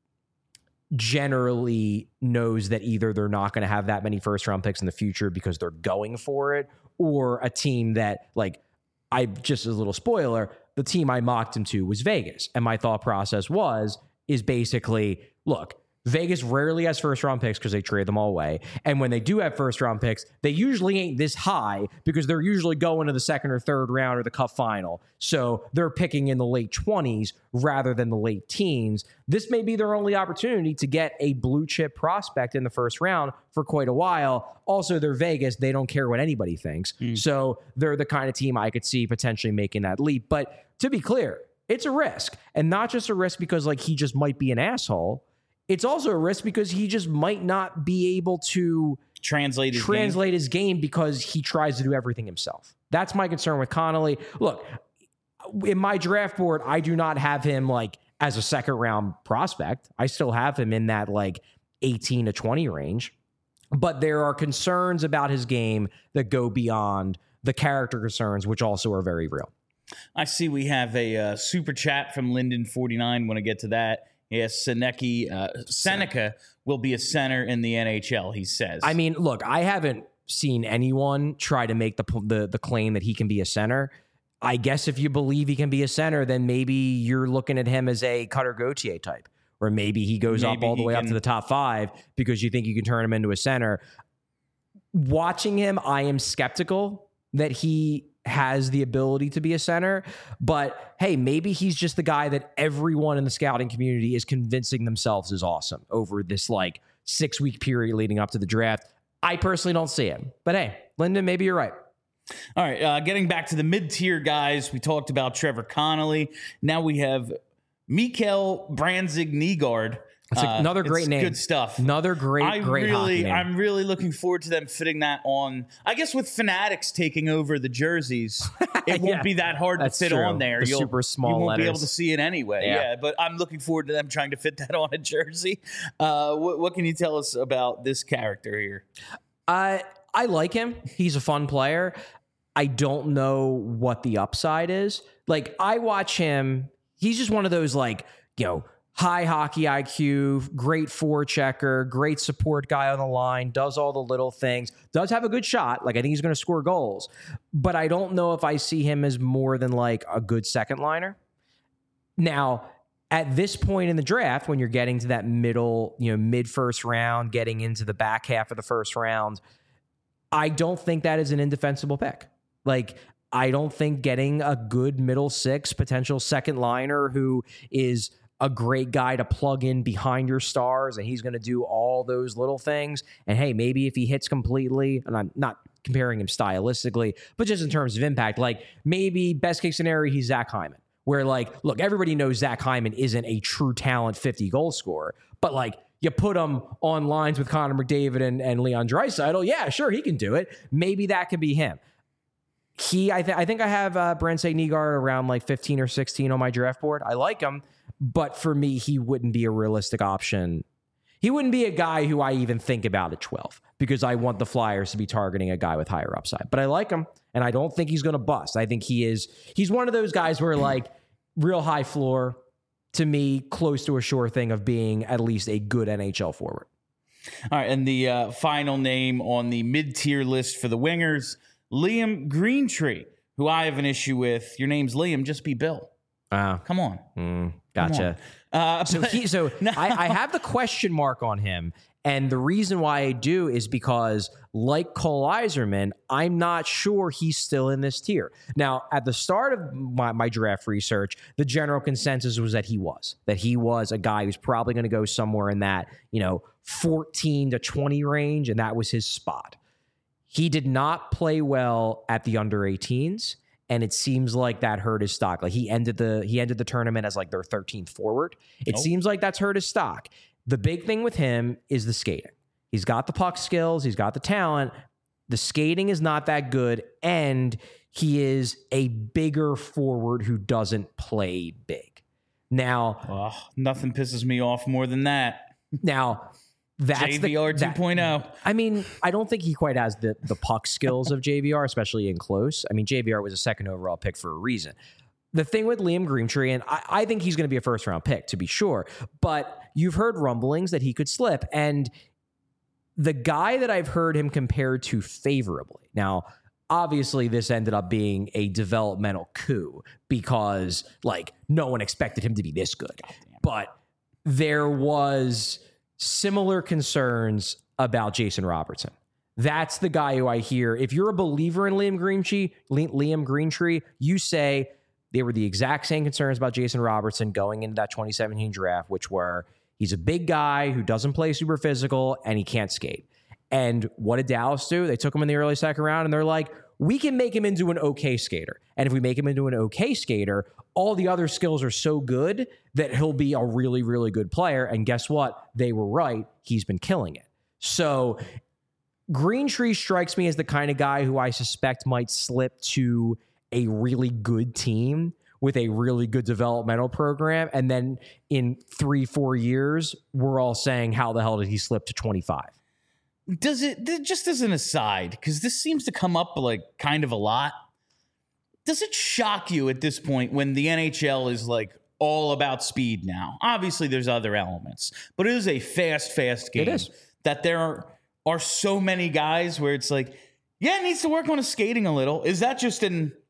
generally knows that either they're not going to have that many first round picks in the future because they're going for it, or a team that, like, just as a little spoiler, the team I mocked him to was Vegas. And my thought process is basically, look, Vegas rarely has first round picks because they trade them all away. And when they do have first round picks, they usually ain't this high because they're usually going to the second or third round or the cup final. So they're picking in the late 20s rather than the late teens. This may be their only opportunity to get a blue chip prospect in the first round for quite a while. Also, they're Vegas. They don't care what anybody thinks. So they're the kind of team I could see potentially making that leap. But to be clear, it's a risk. And not just a risk because like he just might be an asshole. It's also a risk because he just might not be able to translate his game because he tries to do everything himself. That's my concern with Connolly. Look, in my draft board, I do not have him like as a second round prospect. I still have him in that like 18 to 20 range. But there are concerns about his game that go beyond the character concerns, which also are very real. I see we have a super chat from Linden49. Want to get to that. Yes, Seneca will be a center in the NHL, he says. I mean, look, I haven't seen anyone try to make the claim that he can be a center. I guess if you believe he can be a center, then maybe you're looking at him as a Cutter Gauthier type, or maybe he goes up all the way up to the top 5 because you think you can turn him into a center. Watching him, I am skeptical that he has the ability to be a center, but hey, maybe he's just the guy that everyone in the scouting community is convincing themselves is awesome over this like 6-week period leading up to the draft. I personally don't see him, but hey, Lyndon, maybe you're right. All right, getting back to the mid-tier guys, we talked about Trevor Connolly. Now we have Mikael Branzig-Nygaard. It's another great name. Good stuff. Another great hockey name. I'm really looking forward to them fitting that on. I guess with Fanatics taking over the jerseys, it won't be that hard to fit on there. You'll super small You won't letters. be able to see it anyway. Yeah, but I'm looking forward to them trying to fit that on a jersey. What can you tell us about this character here? I like him. He's a fun player. I don't know what the upside is. Like, I watch him. He's just one of those, like, high hockey IQ, great forechecker, great support guy on the line, does all the little things, does have a good shot. Like, I think he's going to score goals. But I don't know if I see him as more than like a good second liner. Now, at this point in the draft, when you're getting to that middle, mid first round, getting into the back half of the first round, I don't think that is an indefensible pick. Like, I don't think getting a good middle 6 potential second liner who is a great guy to plug in behind your stars, and he's going to do all those little things. And hey, maybe if he hits completely, and I'm not comparing him stylistically, but just in terms of impact, like maybe best case scenario, he's Zach Hyman, where like, look, everybody knows Zach Hyman isn't a true talent 50 goal scorer, but like you put him on lines with Connor McDavid and Leon Draisaitl, yeah, sure, he can do it. Maybe that could be him. I think I have Branzig-Nygaard around like 15 or 16 on my draft board. I like him. But for me, he wouldn't be a realistic option. He wouldn't be a guy who I even think about at 12 because I want the Flyers to be targeting a guy with higher upside. But I like him, and I don't think he's going to bust. I think he's one of those guys where, like, real high floor, to me, close to a sure thing of being at least a good NHL forward. All right, and the final name on the mid-tier list for the wingers, Liam Greentree, who I have an issue with. Your name's Liam, just be Bill. Come on. Gotcha. I have the question mark on him, and the reason why I do is because, like Cole Yzerman, I'm not sure he's still in this tier. Now, at the start of my draft research, the general consensus was that he was a guy who's probably going to go somewhere in that 14 to 20 range, and that was his spot. He did not play well at the under 18s, and it seems like that hurt his stock. Like he ended the tournament as like their 13th forward. It seems like that's hurt his stock. The big thing with him is the skating. He's got the puck skills, he's got the talent. The skating is not that good, and he is a bigger forward who doesn't play big. Now, nothing pisses me off more than that. Now, that's JVR 2.0. I mean, I don't think he quite has the puck skills of JVR, especially in close. I mean, JVR was a second overall pick for a reason. The thing with Liam Greentree, and I think he's going to be a first-round pick, to be sure, but you've heard rumblings that he could slip, and the guy that I've heard him compared to favorably. Now, obviously, this ended up being a developmental coup because, like, no one expected him to be this good. But there was similar concerns about Jason Robertson. That's the guy who I hear. If you're a believer in Liam Greentree, you say they were the exact same concerns about Jason Robertson going into that 2017 draft, which were he's a big guy who doesn't play super physical and he can't skate. And what did Dallas do? They took him in the early second round and they're like, we can make him into an okay skater. And if we make him into an okay skater, all the other skills are so good that he'll be a really, really good player. And guess what? They were right. He's been killing it. So Greentree strikes me as the kind of guy who I suspect might slip to a really good team with a really good developmental program. And then in 3-4 years, we're all saying, how the hell did he slip to 25? Does it, just as an aside, because this seems to come up like kind of a lot, does it shock you at this point when the NHL is like all about speed now? Obviously, there's other elements, but it is a fast game. It is. That there are so many guys where it's like, yeah, it needs to work on his skating a little. Is that just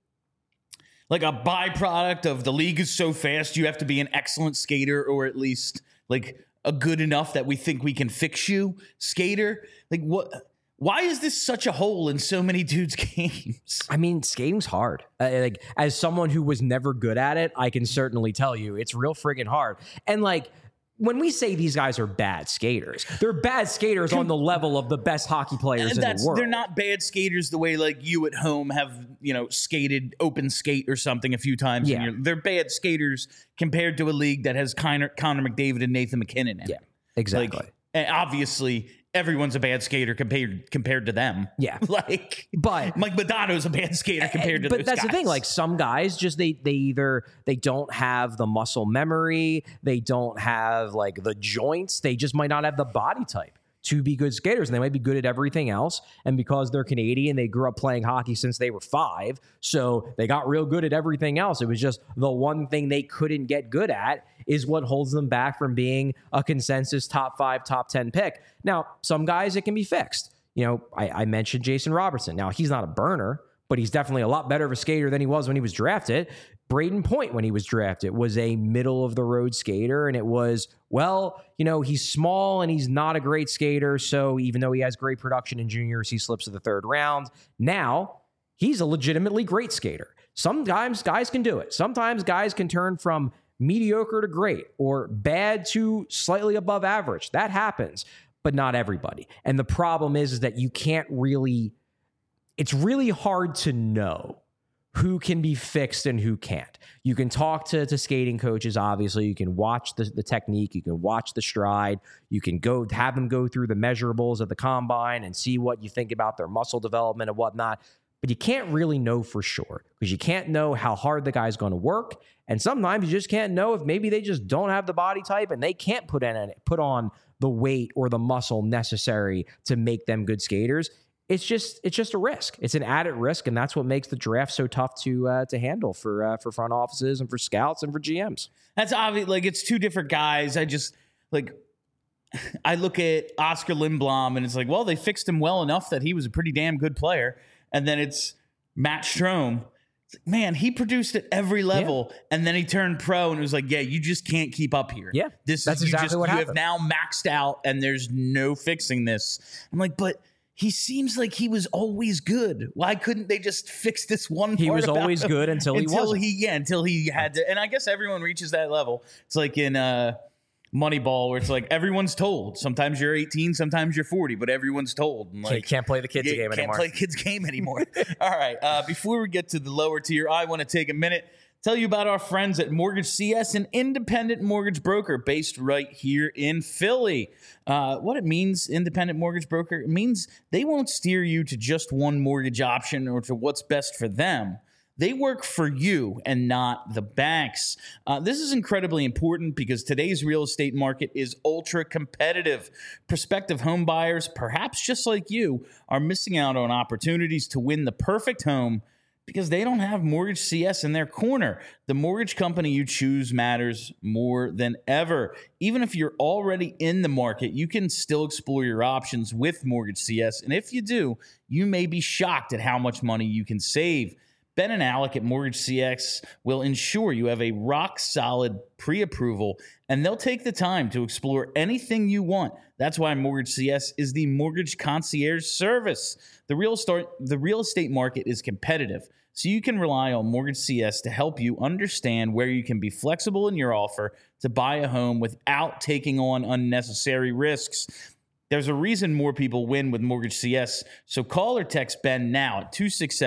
like a byproduct of the league is so fast you have to be an excellent skater, or at least like a good enough that we think we can fix you skater? Like, what? Why is this such a hole in so many dudes' games? I mean, skating's hard. Like, as someone who was never good at it, I can certainly tell you it's real friggin' hard. And like, when we say these guys are bad skaters, they're bad skaters on the level of the best hockey players in the world. They're not bad skaters the way like you at home have, skated open skate or something a few times. Yeah. They're bad skaters compared to a league that has Connor McDavid and Nathan MacKinnon in it. Yeah, exactly. Like, and obviously, everyone's a bad skater compared to them. Yeah. But Mike Modano's a bad skater compared to those guys. But that's the thing. Like, some guys just, they don't have the muscle memory. They don't have like the joints. They just might not have the body type to be good skaters, and they might be good at everything else. And because they're Canadian, they grew up playing hockey since they were 5. So they got real good at everything else. It was just the one thing they couldn't get good at is what holds them back from being a consensus top 5, top 10 pick. Now, some guys, it can be fixed. I mentioned Jason Robertson. Now, he's not a burner, but he's definitely a lot better of a skater than he was when he was drafted. Braden Point, when he was drafted, was a middle-of-the-road skater, and it was, he's small and he's not a great skater, so even though he has great production in juniors, he slips to the 3rd round. Now, he's a legitimately great skater. Sometimes guys can do it. Sometimes guys can turn from mediocre to great or bad to slightly above average. That happens, but not everybody. And the problem is that you can't really, it's really hard to know who can be fixed and who can't. You can talk to skating coaches, obviously. You can watch the technique. You can watch the stride. You can have them go through the measurables of the combine and see what you think about their muscle development and whatnot. but you can't really know for sure because you can't know how hard the guy's going to work. And sometimes you just can't know if maybe they just don't have the body type and they can't put on the weight or the muscle necessary to make them good skaters. It's just a risk. It's an added risk, and that's what makes the draft so tough to handle for front offices and for scouts and for GMs. That's obvious. Like, it's two different guys. I look at Oscar Lindblom, and it's like, well, they fixed him well enough that he was a pretty damn good player. And then it's Matt Strome. Man, he produced at every level, and then he turned pro, and it was like, yeah, you just can't keep up here. Yeah, that's exactly what happened. You have now maxed out, and there's no fixing this. I'm like, but he seems like he was always good. Why couldn't they just fix this one part? He was always good until he wasn't. Until he had to. And I guess everyone reaches that level. It's like in Moneyball, where it's like everyone's told. Sometimes you're 18, sometimes you're 40, but everyone's told. And like, you can't play the kids' game anymore. Can't play kids' game anymore. All right. Before we get to the lower tier, I want to take a minute, tell you about our friends at Mortgage CS, an independent mortgage broker based right here in Philly. What it means, independent mortgage broker, it means they won't steer you to just one mortgage option or to what's best for them. They work for you and not the banks. This is incredibly important because today's real estate market is ultra competitive. Prospective home buyers, perhaps just like you, are missing out on opportunities to win the perfect home because they don't have Mortgage CS in their corner. The mortgage company you choose matters more than ever. Even if you're already in the market, you can still explore your options with Mortgage CS. And if you do, you may be shocked at how much money you can save. Ben and Alec at Mortgage CS will ensure you have a rock-solid pre-approval, and they'll take the time to explore anything you want. That's why Mortgage CS is the mortgage concierge service. The real estate market is competitive, so you can rely on Mortgage CS to help you understand where you can be flexible in your offer to buy a home without taking on unnecessary risks. There's a reason more people win with Mortgage CS, so call or text Ben now at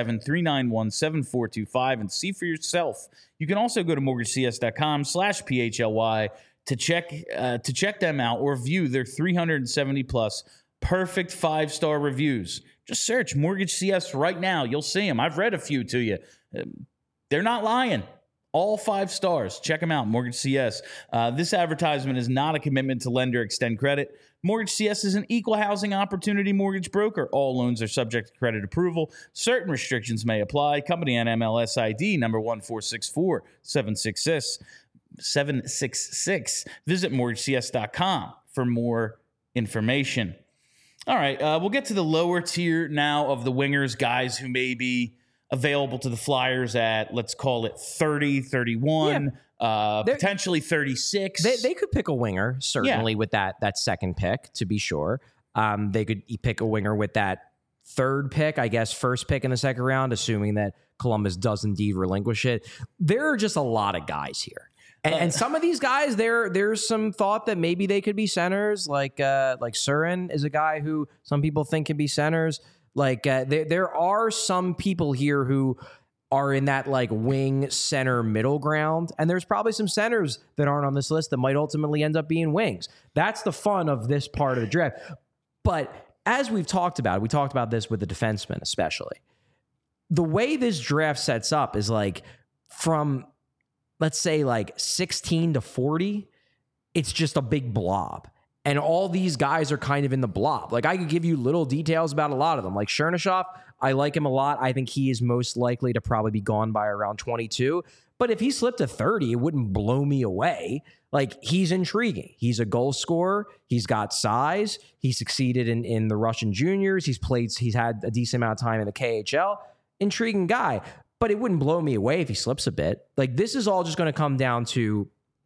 267-391-7425 and see for yourself. You can also go to mortgagecs.com/PHLY to check them out or view their 370-plus perfect 5-star reviews. Just search Mortgage CS right now. You'll see them. I've read a few to you. They're not lying. All 5 stars. Check them out, Mortgage CS. This advertisement is not a commitment to lend or extend credit. Mortgage CS is an equal housing opportunity mortgage broker. All loans are subject to credit approval. Certain restrictions may apply. Company NMLS ID number 1464766. Visit mortgagecs.com for more information. All right, we'll get to the lower tier now of the wingers, guys who may be available to the Flyers at, let's call it 30, 31, potentially 36. They could pick a winger, certainly, with that second pick, to be sure. They could pick a winger with that third pick, I guess, first pick in the second round, assuming that Columbus does indeed relinquish it. There are just a lot of guys here. And some of these guys, there's some thought that maybe they could be centers, like Surin is a guy who some people think can be centers. Like there are some people here who are in that like wing center middle ground. And there's probably some centers that aren't on this list that might ultimately end up being wings. That's the fun of this part of the draft. But as we talked about this with the defensemen, especially the way this draft sets up is like from, let's say like 16 to 40, it's just a big blob. And all these guys are kind of in the blob. Like I could give you little details about a lot of them. Like Chernyshov, I like him a lot. I think he is most likely to probably be gone by around 22. But if he slipped to 30, it wouldn't blow me away. Like he's intriguing. He's a goal scorer. He's got size. He succeeded in the Russian juniors. He's had a decent amount of time in the KHL. Intriguing guy. But it wouldn't blow me away if he slips a bit. Like this is all just going to come down to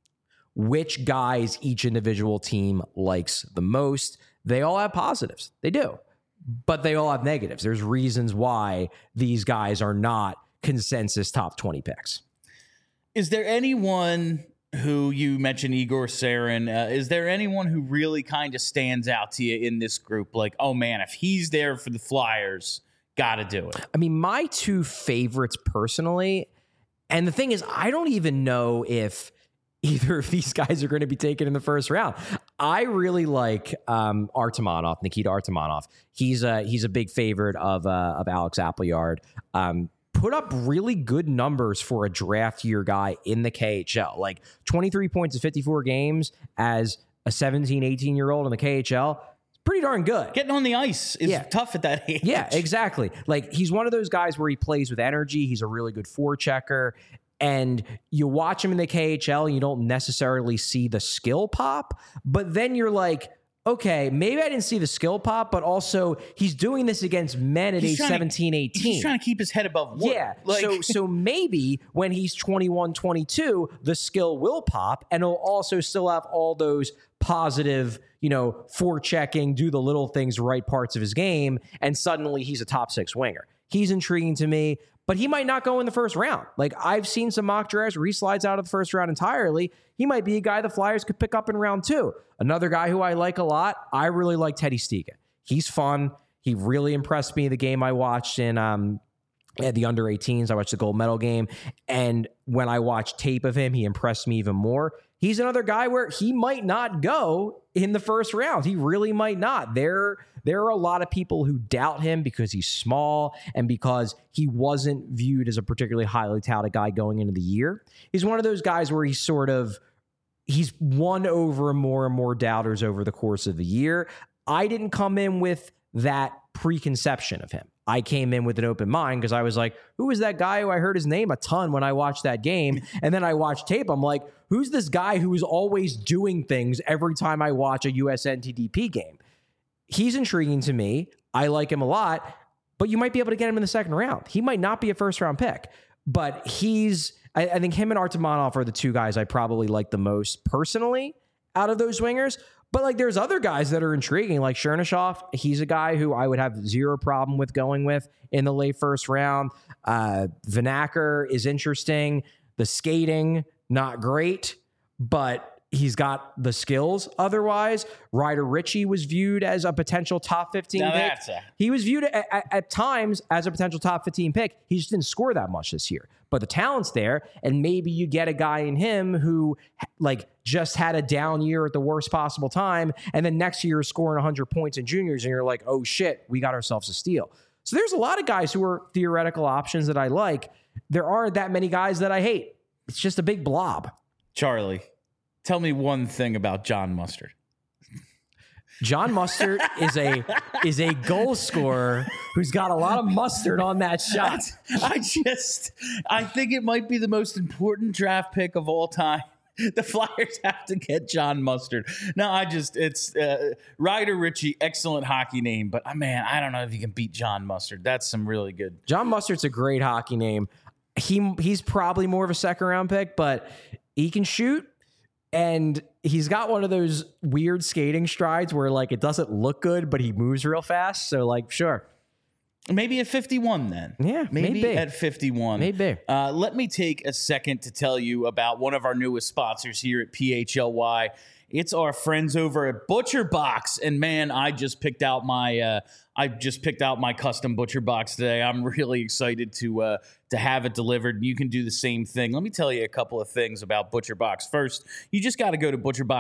which guys each individual team likes the most. They all have positives. They do. But they all have negatives. There's reasons why these guys are not consensus top 20 picks. Is there anyone who, you mentioned Igor Sarin, is there anyone who really kind of stands out to you in this group? Like, oh man, if he's there for the Flyers, got to do it. I mean, my two favorites personally, and the thing is, I don't even know if either of these guys are going to be taken in the first round. I really like Artemonov, Nikita Artemonov. He's a big favorite of Alex Appleyard. Put up really good numbers for a draft year guy in the KHL, like 23 points in 54 games as a 17, 18-year-old in the KHL. Pretty darn good. Getting on the ice is tough at that age. Yeah, exactly. Like, he's one of those guys where he plays with energy. He's a really good forechecker. And you watch him in the KHL and you don't necessarily see the skill pop. But then you're like, okay, maybe I didn't see the skill pop, but also he's doing this against men at age 17, 18. He's trying to keep his head above water. Yeah, so maybe when he's 21, 22, the skill will pop, and he'll also still have all those positive, forechecking, do the little things, right parts of his game, and suddenly he's a top 6 winger. He's intriguing to me, but he might not go in the first round. Like, I've seen some mock drafts where he slides out of the first round entirely. He might be a guy the Flyers could pick up in round 2. Another guy who I like a lot, I really like Teddy Stiga. He's fun. He really impressed me the game I watched in at the under-18s. I watched the gold medal game. And when I watched tape of him, he impressed me even more. He's another guy where he might not go in the first round. He really might not. There are a lot of people who doubt him because he's small and because he wasn't viewed as a particularly highly touted guy going into the year. He's one of those guys where he's won over more and more doubters over the course of the year. I didn't come in with that preconception of him. I came in with an open mind because I was like, who is that guy who I heard his name a ton when I watched that game? And then I watched tape. I'm like, who's this guy who is always doing things every time I watch a USNTDP game? He's intriguing to me. I like him a lot, but you might be able to get him in the second round. He might not be a first round pick, but I think him and Artemonov are the two guys I probably like the most personally out of those wingers. But like, there's other guys that are intriguing, like Chernyshov. He's a guy who I would have zero problem with going with in the late first round. Vanacker is interesting. The skating, not great, but he's got the skills. Otherwise, Ryder Ritchie was viewed as a potential top 15 pick. He was viewed at times as a potential top 15 pick. He just didn't score that much this year. But the talent's there, and maybe you get a guy in him who just had a down year at the worst possible time, and then next year is scoring 100 points in juniors, and you're like, oh shit, we got ourselves a steal. So there's a lot of guys who are theoretical options that I like. There aren't that many guys that I hate. It's just a big blob. Charlie, tell me one thing about John Mustard. John Mustard is a goal scorer who's got a lot of mustard on that shot. I think it might be the most important draft pick of all time. The Flyers have to get John Mustard. No, it's Ryder Ritchie, excellent hockey name, but man, I don't know if you can beat John Mustard. That's some really good. John Mustard's a great hockey name. He's probably more of a second round pick, but he can shoot. And he's got one of those weird skating strides where it doesn't look good, but he moves real fast. So sure. Maybe at 51 then. Yeah, maybe. At 51. Maybe. Let me take a second to tell you about one of our newest sponsors here at PHLY. It's our friends over at Butcher Box. And man, I just picked out my custom Butcher Box today. I'm really excited to have it delivered. You can do the same thing. Let me tell you a couple of things about Butcher Box. First, you just got to go to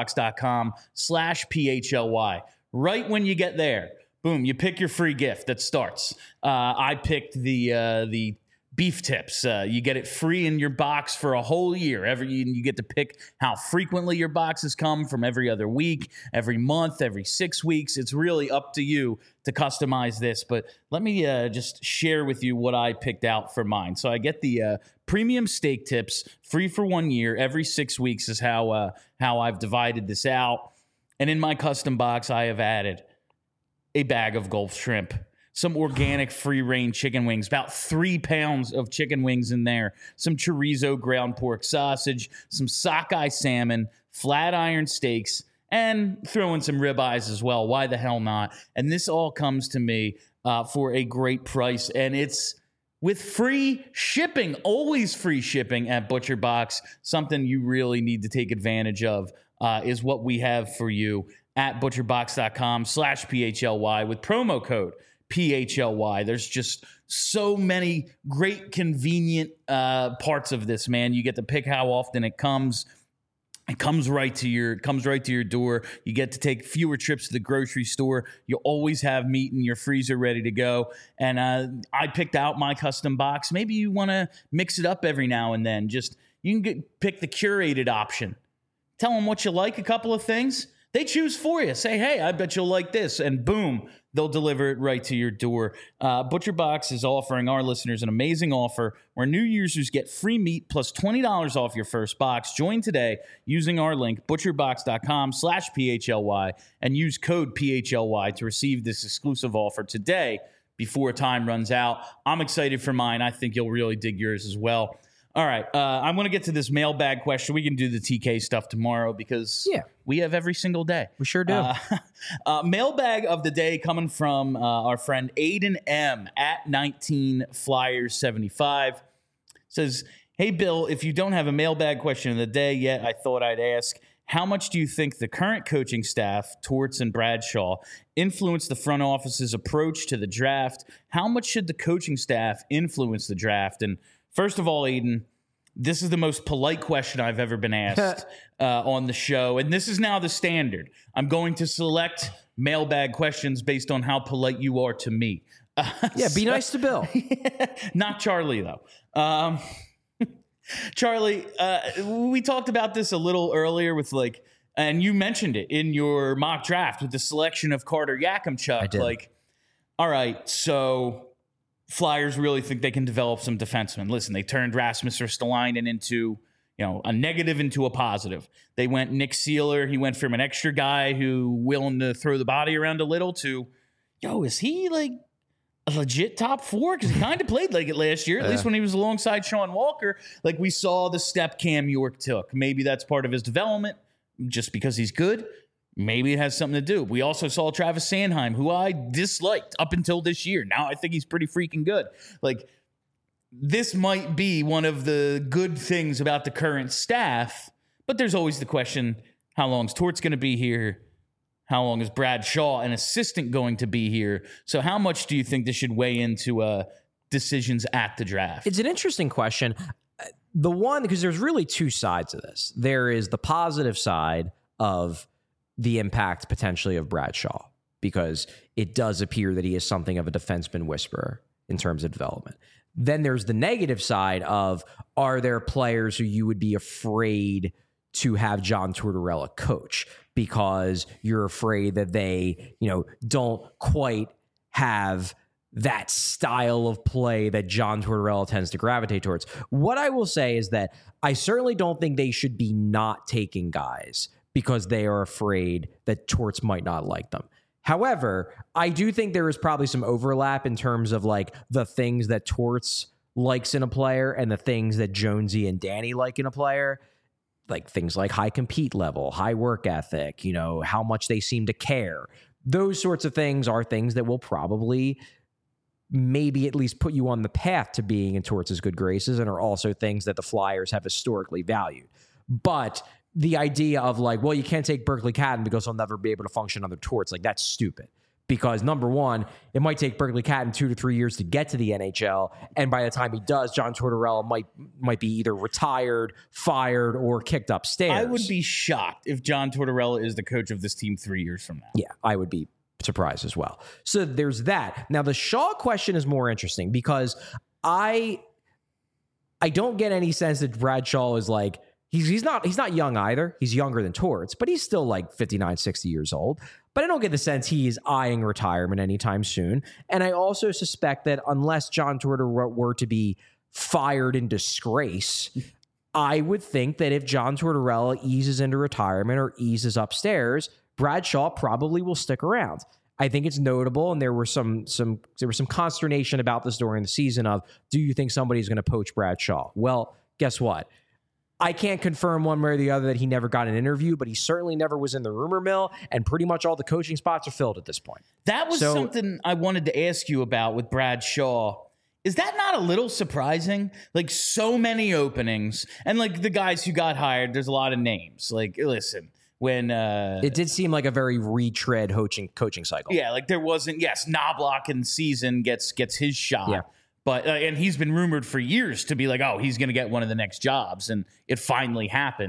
butcherbox.com/PHLY. Right when you get there, boom, you pick your free gift that starts. I picked the beef tips. You get it free in your box for a whole year. You get to pick how frequently your boxes come, from every other week, every month, every 6 weeks. It's really up to you to customize this. But let me just share with you what I picked out for mine. So I get the premium steak tips free for 1 year. Every 6 weeks is how I've divided this out. And in my custom box, I have added a bag of Gulf shrimp, some organic free-range chicken wings, about 3 pounds of chicken wings in there, some chorizo ground pork sausage, some sockeye salmon, flat iron steaks, and throw in some ribeyes as well. Why the hell not? And this all comes to me for a great price, and it's with free shipping, always free shipping at Butcher Box. Something you really need to take advantage of is what we have for you at butcherbox.com/PHLY with promo code PHLY. There's just so many great, convenient parts of this, man. You get to pick how often it comes. It comes right to your door. You get to take fewer trips to the grocery store. You always have meat in your freezer ready to go. And I picked out my custom box. Maybe you want to mix it up every now and then. You can pick the curated option. Tell them what you like, a couple of things. They choose for you. Say, hey, I bet you'll like this. And boom, they'll deliver it right to your door. ButcherBox is offering our listeners an amazing offer where new users get free meat plus $20 off your first box. Join today using our link, butcherbox.com/PHLY, and use code PHLY to receive this exclusive offer today before time runs out. I'm excited for mine. I think you'll really dig yours as well. All right, I'm going to get to this mailbag question. We can do the TK stuff tomorrow because we have every single day. We sure do. Mailbag of the day coming from our friend Aiden M. at 19Flyers75. Says, hey, Bill, if you don't have a mailbag question of the day yet, I thought I'd ask, how much do you think the current coaching staff, Torts and Bradshaw, influence the front office's approach to the draft? How much should the coaching staff influence the draft? And first of all, Aiden, this is the most polite question I've ever been asked on the show, and this is now the standard. I'm going to select mailbag questions based on how polite you are to me. Be nice to Bill. Not Charlie, though. Charlie, we talked about this a little earlier with and you mentioned it in your mock draft with the selection of Carter Yakimchuk. I did. All right, so Flyers really think they can develop some defensemen. Listen, they turned Rasmus Ristolainen into, a negative into a positive. They went Nick Seeler. He went from an extra guy who willing to throw the body around a little to, is he a legit top four? Because he kind of played like it last year, at least when he was alongside Sean Walker. We saw the step Cam York took. Maybe that's part of his development just because he's good. Maybe it has something to do. We also saw Travis Sanheim, who I disliked up until this year. Now I think he's pretty freaking good. This might be one of the good things about the current staff, but there's always the question, how long is Torts going to be here? How long is Brad Shaw, an assistant, going to be here? So how much do you think this should weigh into decisions at the draft? It's an interesting question. The one, because there's really two sides of this. There is the positive side of the impact potentially of Bradshaw, because it does appear that he is something of a defenseman whisperer in terms of development. Then there's the negative side of, are there players who you would be afraid to have John Tortorella coach because you're afraid that they, don't quite have that style of play that John Tortorella tends to gravitate towards? What I will say is that I certainly don't think they should be not taking guys because they are afraid that Torts might not like them. However, I do think there is probably some overlap in terms of the things that Torts likes in a player and the things that Jonesy and Danny like in a player. Things like high compete level, high work ethic, how much they seem to care. Those sorts of things are things that will probably maybe at least put you on the path to being in Torts' good graces, and are also things that the Flyers have historically valued. But the idea of you can't take Berkeley Catton because he'll never be able to function under Torts, that's stupid. Because number one, it might take Berkeley Catton 2 to 3 years to get to the NHL, and by the time he does, John Tortorella might be either retired, fired, or kicked upstairs. I would be shocked if John Tortorella is the coach of this team 3 years from now. Yeah, I would be surprised as well. So there's that. Now the Shaw question is more interesting because I don't get any sense that Bradshaw is he's not young either. He's younger than Torts, but he's still 59, 60 years old. But I don't get the sense he is eyeing retirement anytime soon. And I also suspect that unless John Tortorella were to be fired in disgrace, I would think that if John Tortorella eases into retirement or eases upstairs, Bradshaw probably will stick around. I think it's notable, and there was some consternation about this during the season of, do you think somebody's going to poach Bradshaw? Well, guess what? I can't confirm one way or the other that he never got an interview, but he certainly never was in the rumor mill, and pretty much all the coaching spots are filled at this point. That was something I wanted to ask you about with Brad Shaw. Is that not a little surprising? So many openings, and the guys who got hired, there's a lot of names. Listen, when it did seem like a very retread coaching cycle. Yeah, there wasn't. Yes, Knobloch in season gets his shot. Yeah. But and he's been rumored for years to be oh, he's going to get one of the next jobs, and it finally happened.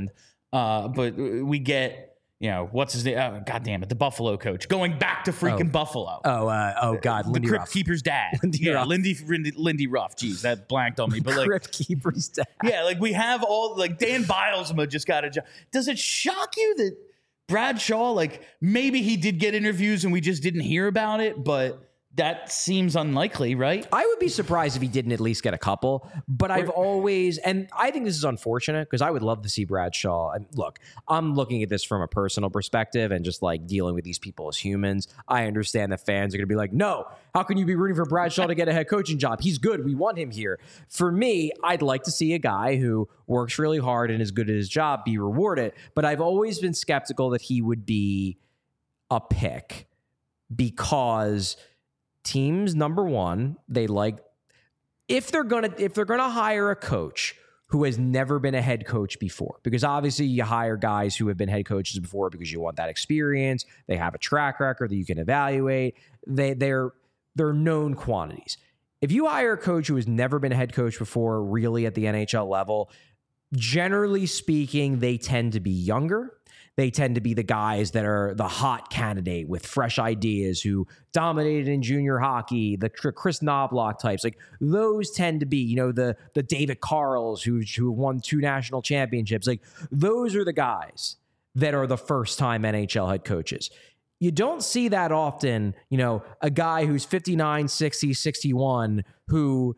But we get, what's his name? Oh, God damn it, the Buffalo coach going back to freaking Buffalo. Oh God, the Lindy Crypt Ruff. Keeper's dad. Lindy Ruff. Jeez, that blanked on me. But like, Crypt Keeper's dad. yeah, like we have all like Dan Bilesma just got a job. Does it shock you that Brad Shaw, like maybe he did get interviews and we just didn't hear about it, but that seems unlikely, right? I would be surprised if he didn't at least get a couple, but I've always, and I think this is unfortunate because I would love to see Brad Shaw. And look, I'm looking at this from a personal perspective and just like dealing with these people as humans. I understand the fans are going to be like, no, how can you be rooting for Brad Shaw to get a head coaching job? He's good. We want him here. For me, I'd like to see a guy who works really hard and is good at his job be rewarded, but I've always been skeptical that he would be a pick because teams, number one, they like if they're gonna hire a coach who has never been a head coach before, because obviously you hire guys who have been head coaches before because you want that experience. They have a track record that you can evaluate. They're known quantities. If you hire a coach who has never been a head coach before, really at the NHL level, generally speaking, they tend to be younger. They tend to be the guys that are the hot candidate with fresh ideas who dominated in junior hockey, the Chris Knobloch types. Like those tend to be, the David Carls who won 2 national championships. Like those are the guys that are the first time NHL head coaches. You don't see that often, a guy who's 59, 60, 61 who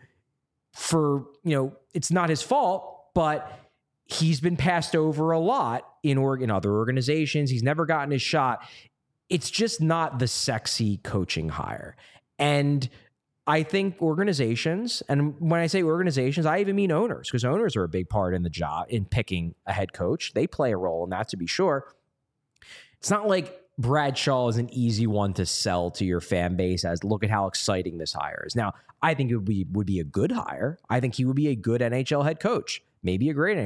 it's not his fault, but he's been passed over a lot in other organizations. He's never gotten his shot. It's just not the sexy coaching hire. And I think organizations, and when I say organizations, I even mean owners, because owners are a big part in the job in picking a head coach. They play a role in that, to be sure. It's not like Brad Shaw is an easy one to sell to your fan base as look at how exciting this hire is. Now, I think it would be a good hire. I think he would be a good NHL head coach. Maybe a great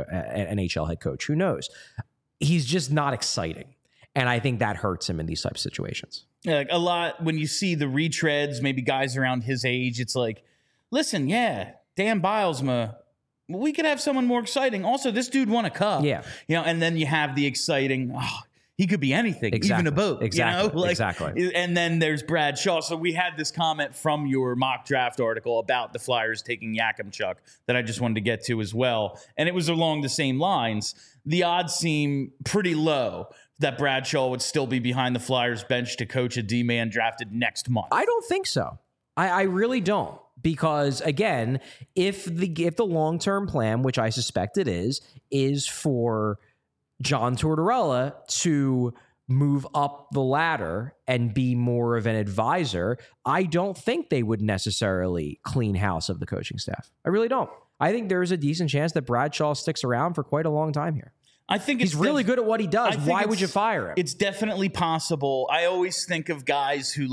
NHL head coach. Who knows? He's just not exciting. And I think that hurts him in these types of situations. Yeah, like a lot when you see the retreads, maybe guys around his age, it's like, listen, Dan Bilesma, we could have someone more exciting. Also, this dude won a cup. Yeah. And then you have the exciting, he could be anything, even a boat. Exactly. Exactly. And then there's Brad Shaw. So we had this comment from your mock draft article about the Flyers taking Yakimchuk that I just wanted to get to as well. And it was along the same lines. The odds seem pretty low that Brad Shaw would still be behind the Flyers bench to coach a D-man drafted next month. I don't think so. I really don't. Because again, if the long-term plan, which I suspect it is for John Tortorella to move up the ladder and be more of an advisor, I don't think they would necessarily clean house of the coaching staff. I really don't. I think there's a decent chance that Brad Shaw sticks around for quite a long time here. I think he's really good at what he does. Why would you fire him? It's definitely possible. I always think of guys who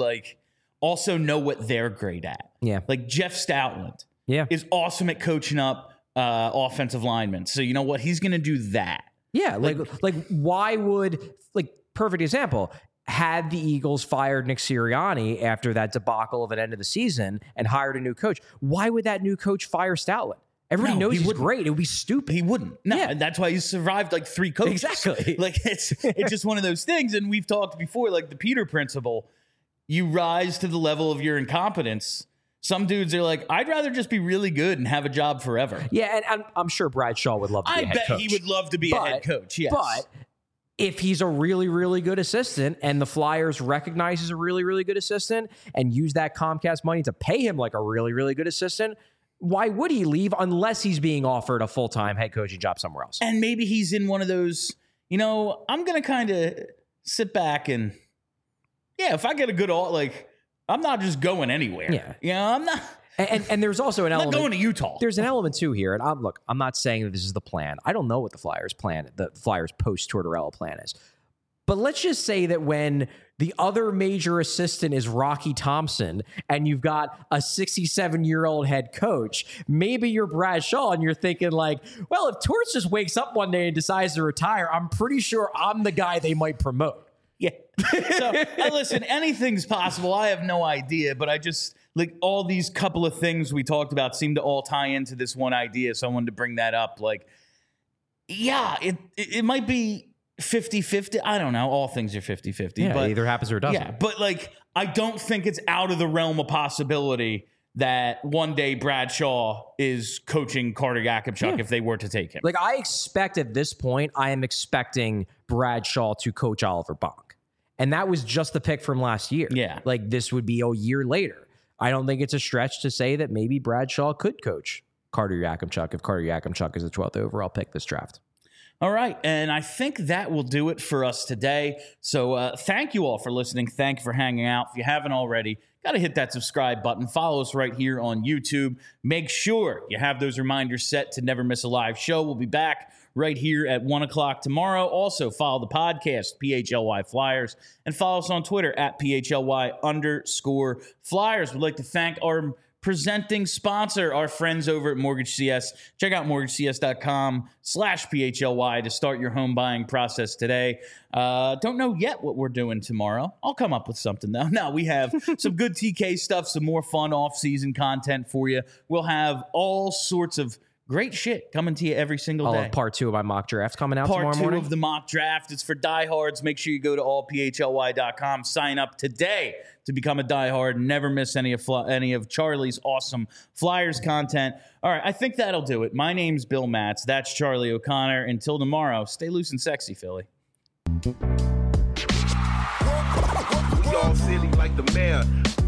also know what they're great at. Yeah. Like Jeff Stoutland is awesome at coaching up offensive linemen. So you know what? He's going to do that. Yeah, like why would, perfect example, had the Eagles fired Nick Sirianni after that debacle of an end of the season and hired a new coach, why would that new coach fire Stoutland? Everybody knows he's great. It would be stupid. He wouldn't. No, that's why he's survived 3 coaches. Exactly. It's just one of those things. And we've talked before, the Peter principle. You rise to the level of your incompetence. Some dudes are like, I'd rather just be really good and have a job forever. Yeah, and I'm sure Brad Shaw would love to be a head coach. I bet he would love to be a head coach, yes. But if he's a really, really good assistant and the Flyers recognize he's a really, really good assistant and use that Comcast money to pay him like a really, really good assistant, why would he leave unless he's being offered a full-time head coaching job somewhere else? And maybe he's in one of those, I'm going to kind of sit back and, if I get a good I'm not just going anywhere. Yeah. I'm not. And there's also an element. I'm not going to Utah. There's an element too here. And I'm not saying that this is the plan. I don't know what the Flyers post Tortorella plan is. But let's just say that when the other major assistant is Rocky Thompson and you've got a 67-year-old head coach, maybe you're Brad Shaw and you're thinking well, if Torts just wakes up one day and decides to retire, I'm pretty sure I'm the guy they might promote. Yeah. So, listen, anything's possible. I have no idea, but I just all these couple of things we talked about seem to all tie into this one idea. So I wanted to bring that up. Yeah, it might be 50-50. I don't know. All things are 50-50. Yeah, but it either happens or it doesn't. Yeah, but like, I don't think it's out of the realm of possibility that one day Bradshaw is coaching Carter Yakupchuk if they were to take him. Like, I expect at this point, I am expecting Bradshaw to coach Oliver Bonk. And that was just the pick from last year. Yeah. Like, this would be a year later. I don't think it's a stretch to say that maybe Bradshaw could coach Carter Yakupchuk if Carter Yakupchuk is the 12th overall pick this draft. All right, and I think that will do it for us today. So thank you all for listening. Thank you for hanging out. If you haven't already, got to hit that subscribe button. Follow us right here on YouTube. Make sure you have those reminders set to never miss a live show. We'll be back right here at 1 o'clock tomorrow. Also, follow the podcast, PHLY Flyers, and follow us on Twitter at PHLY_Flyers. We'd like to thank our presenting sponsor, our friends over at Mortgage CS. Check out mortgagecs.com/PHLY to start your home buying process today. Don't know yet what we're doing tomorrow. I'll come up with something, though. No, we have some good TK stuff, some more fun off-season content for you. We'll have all sorts of great shit coming to you every single day. Part 2 of my mock draft coming out tomorrow Part 2 morning. of the mock draft. It's for diehards. Make sure you go to allphly.com. Sign up today to become a diehard. Never miss any of Charlie's awesome Flyers content. All right, I think that'll do it. My name's Bill Matz. That's Charlie O'Connor. Until tomorrow, stay loose and sexy, Philly. We all silly like the mayor.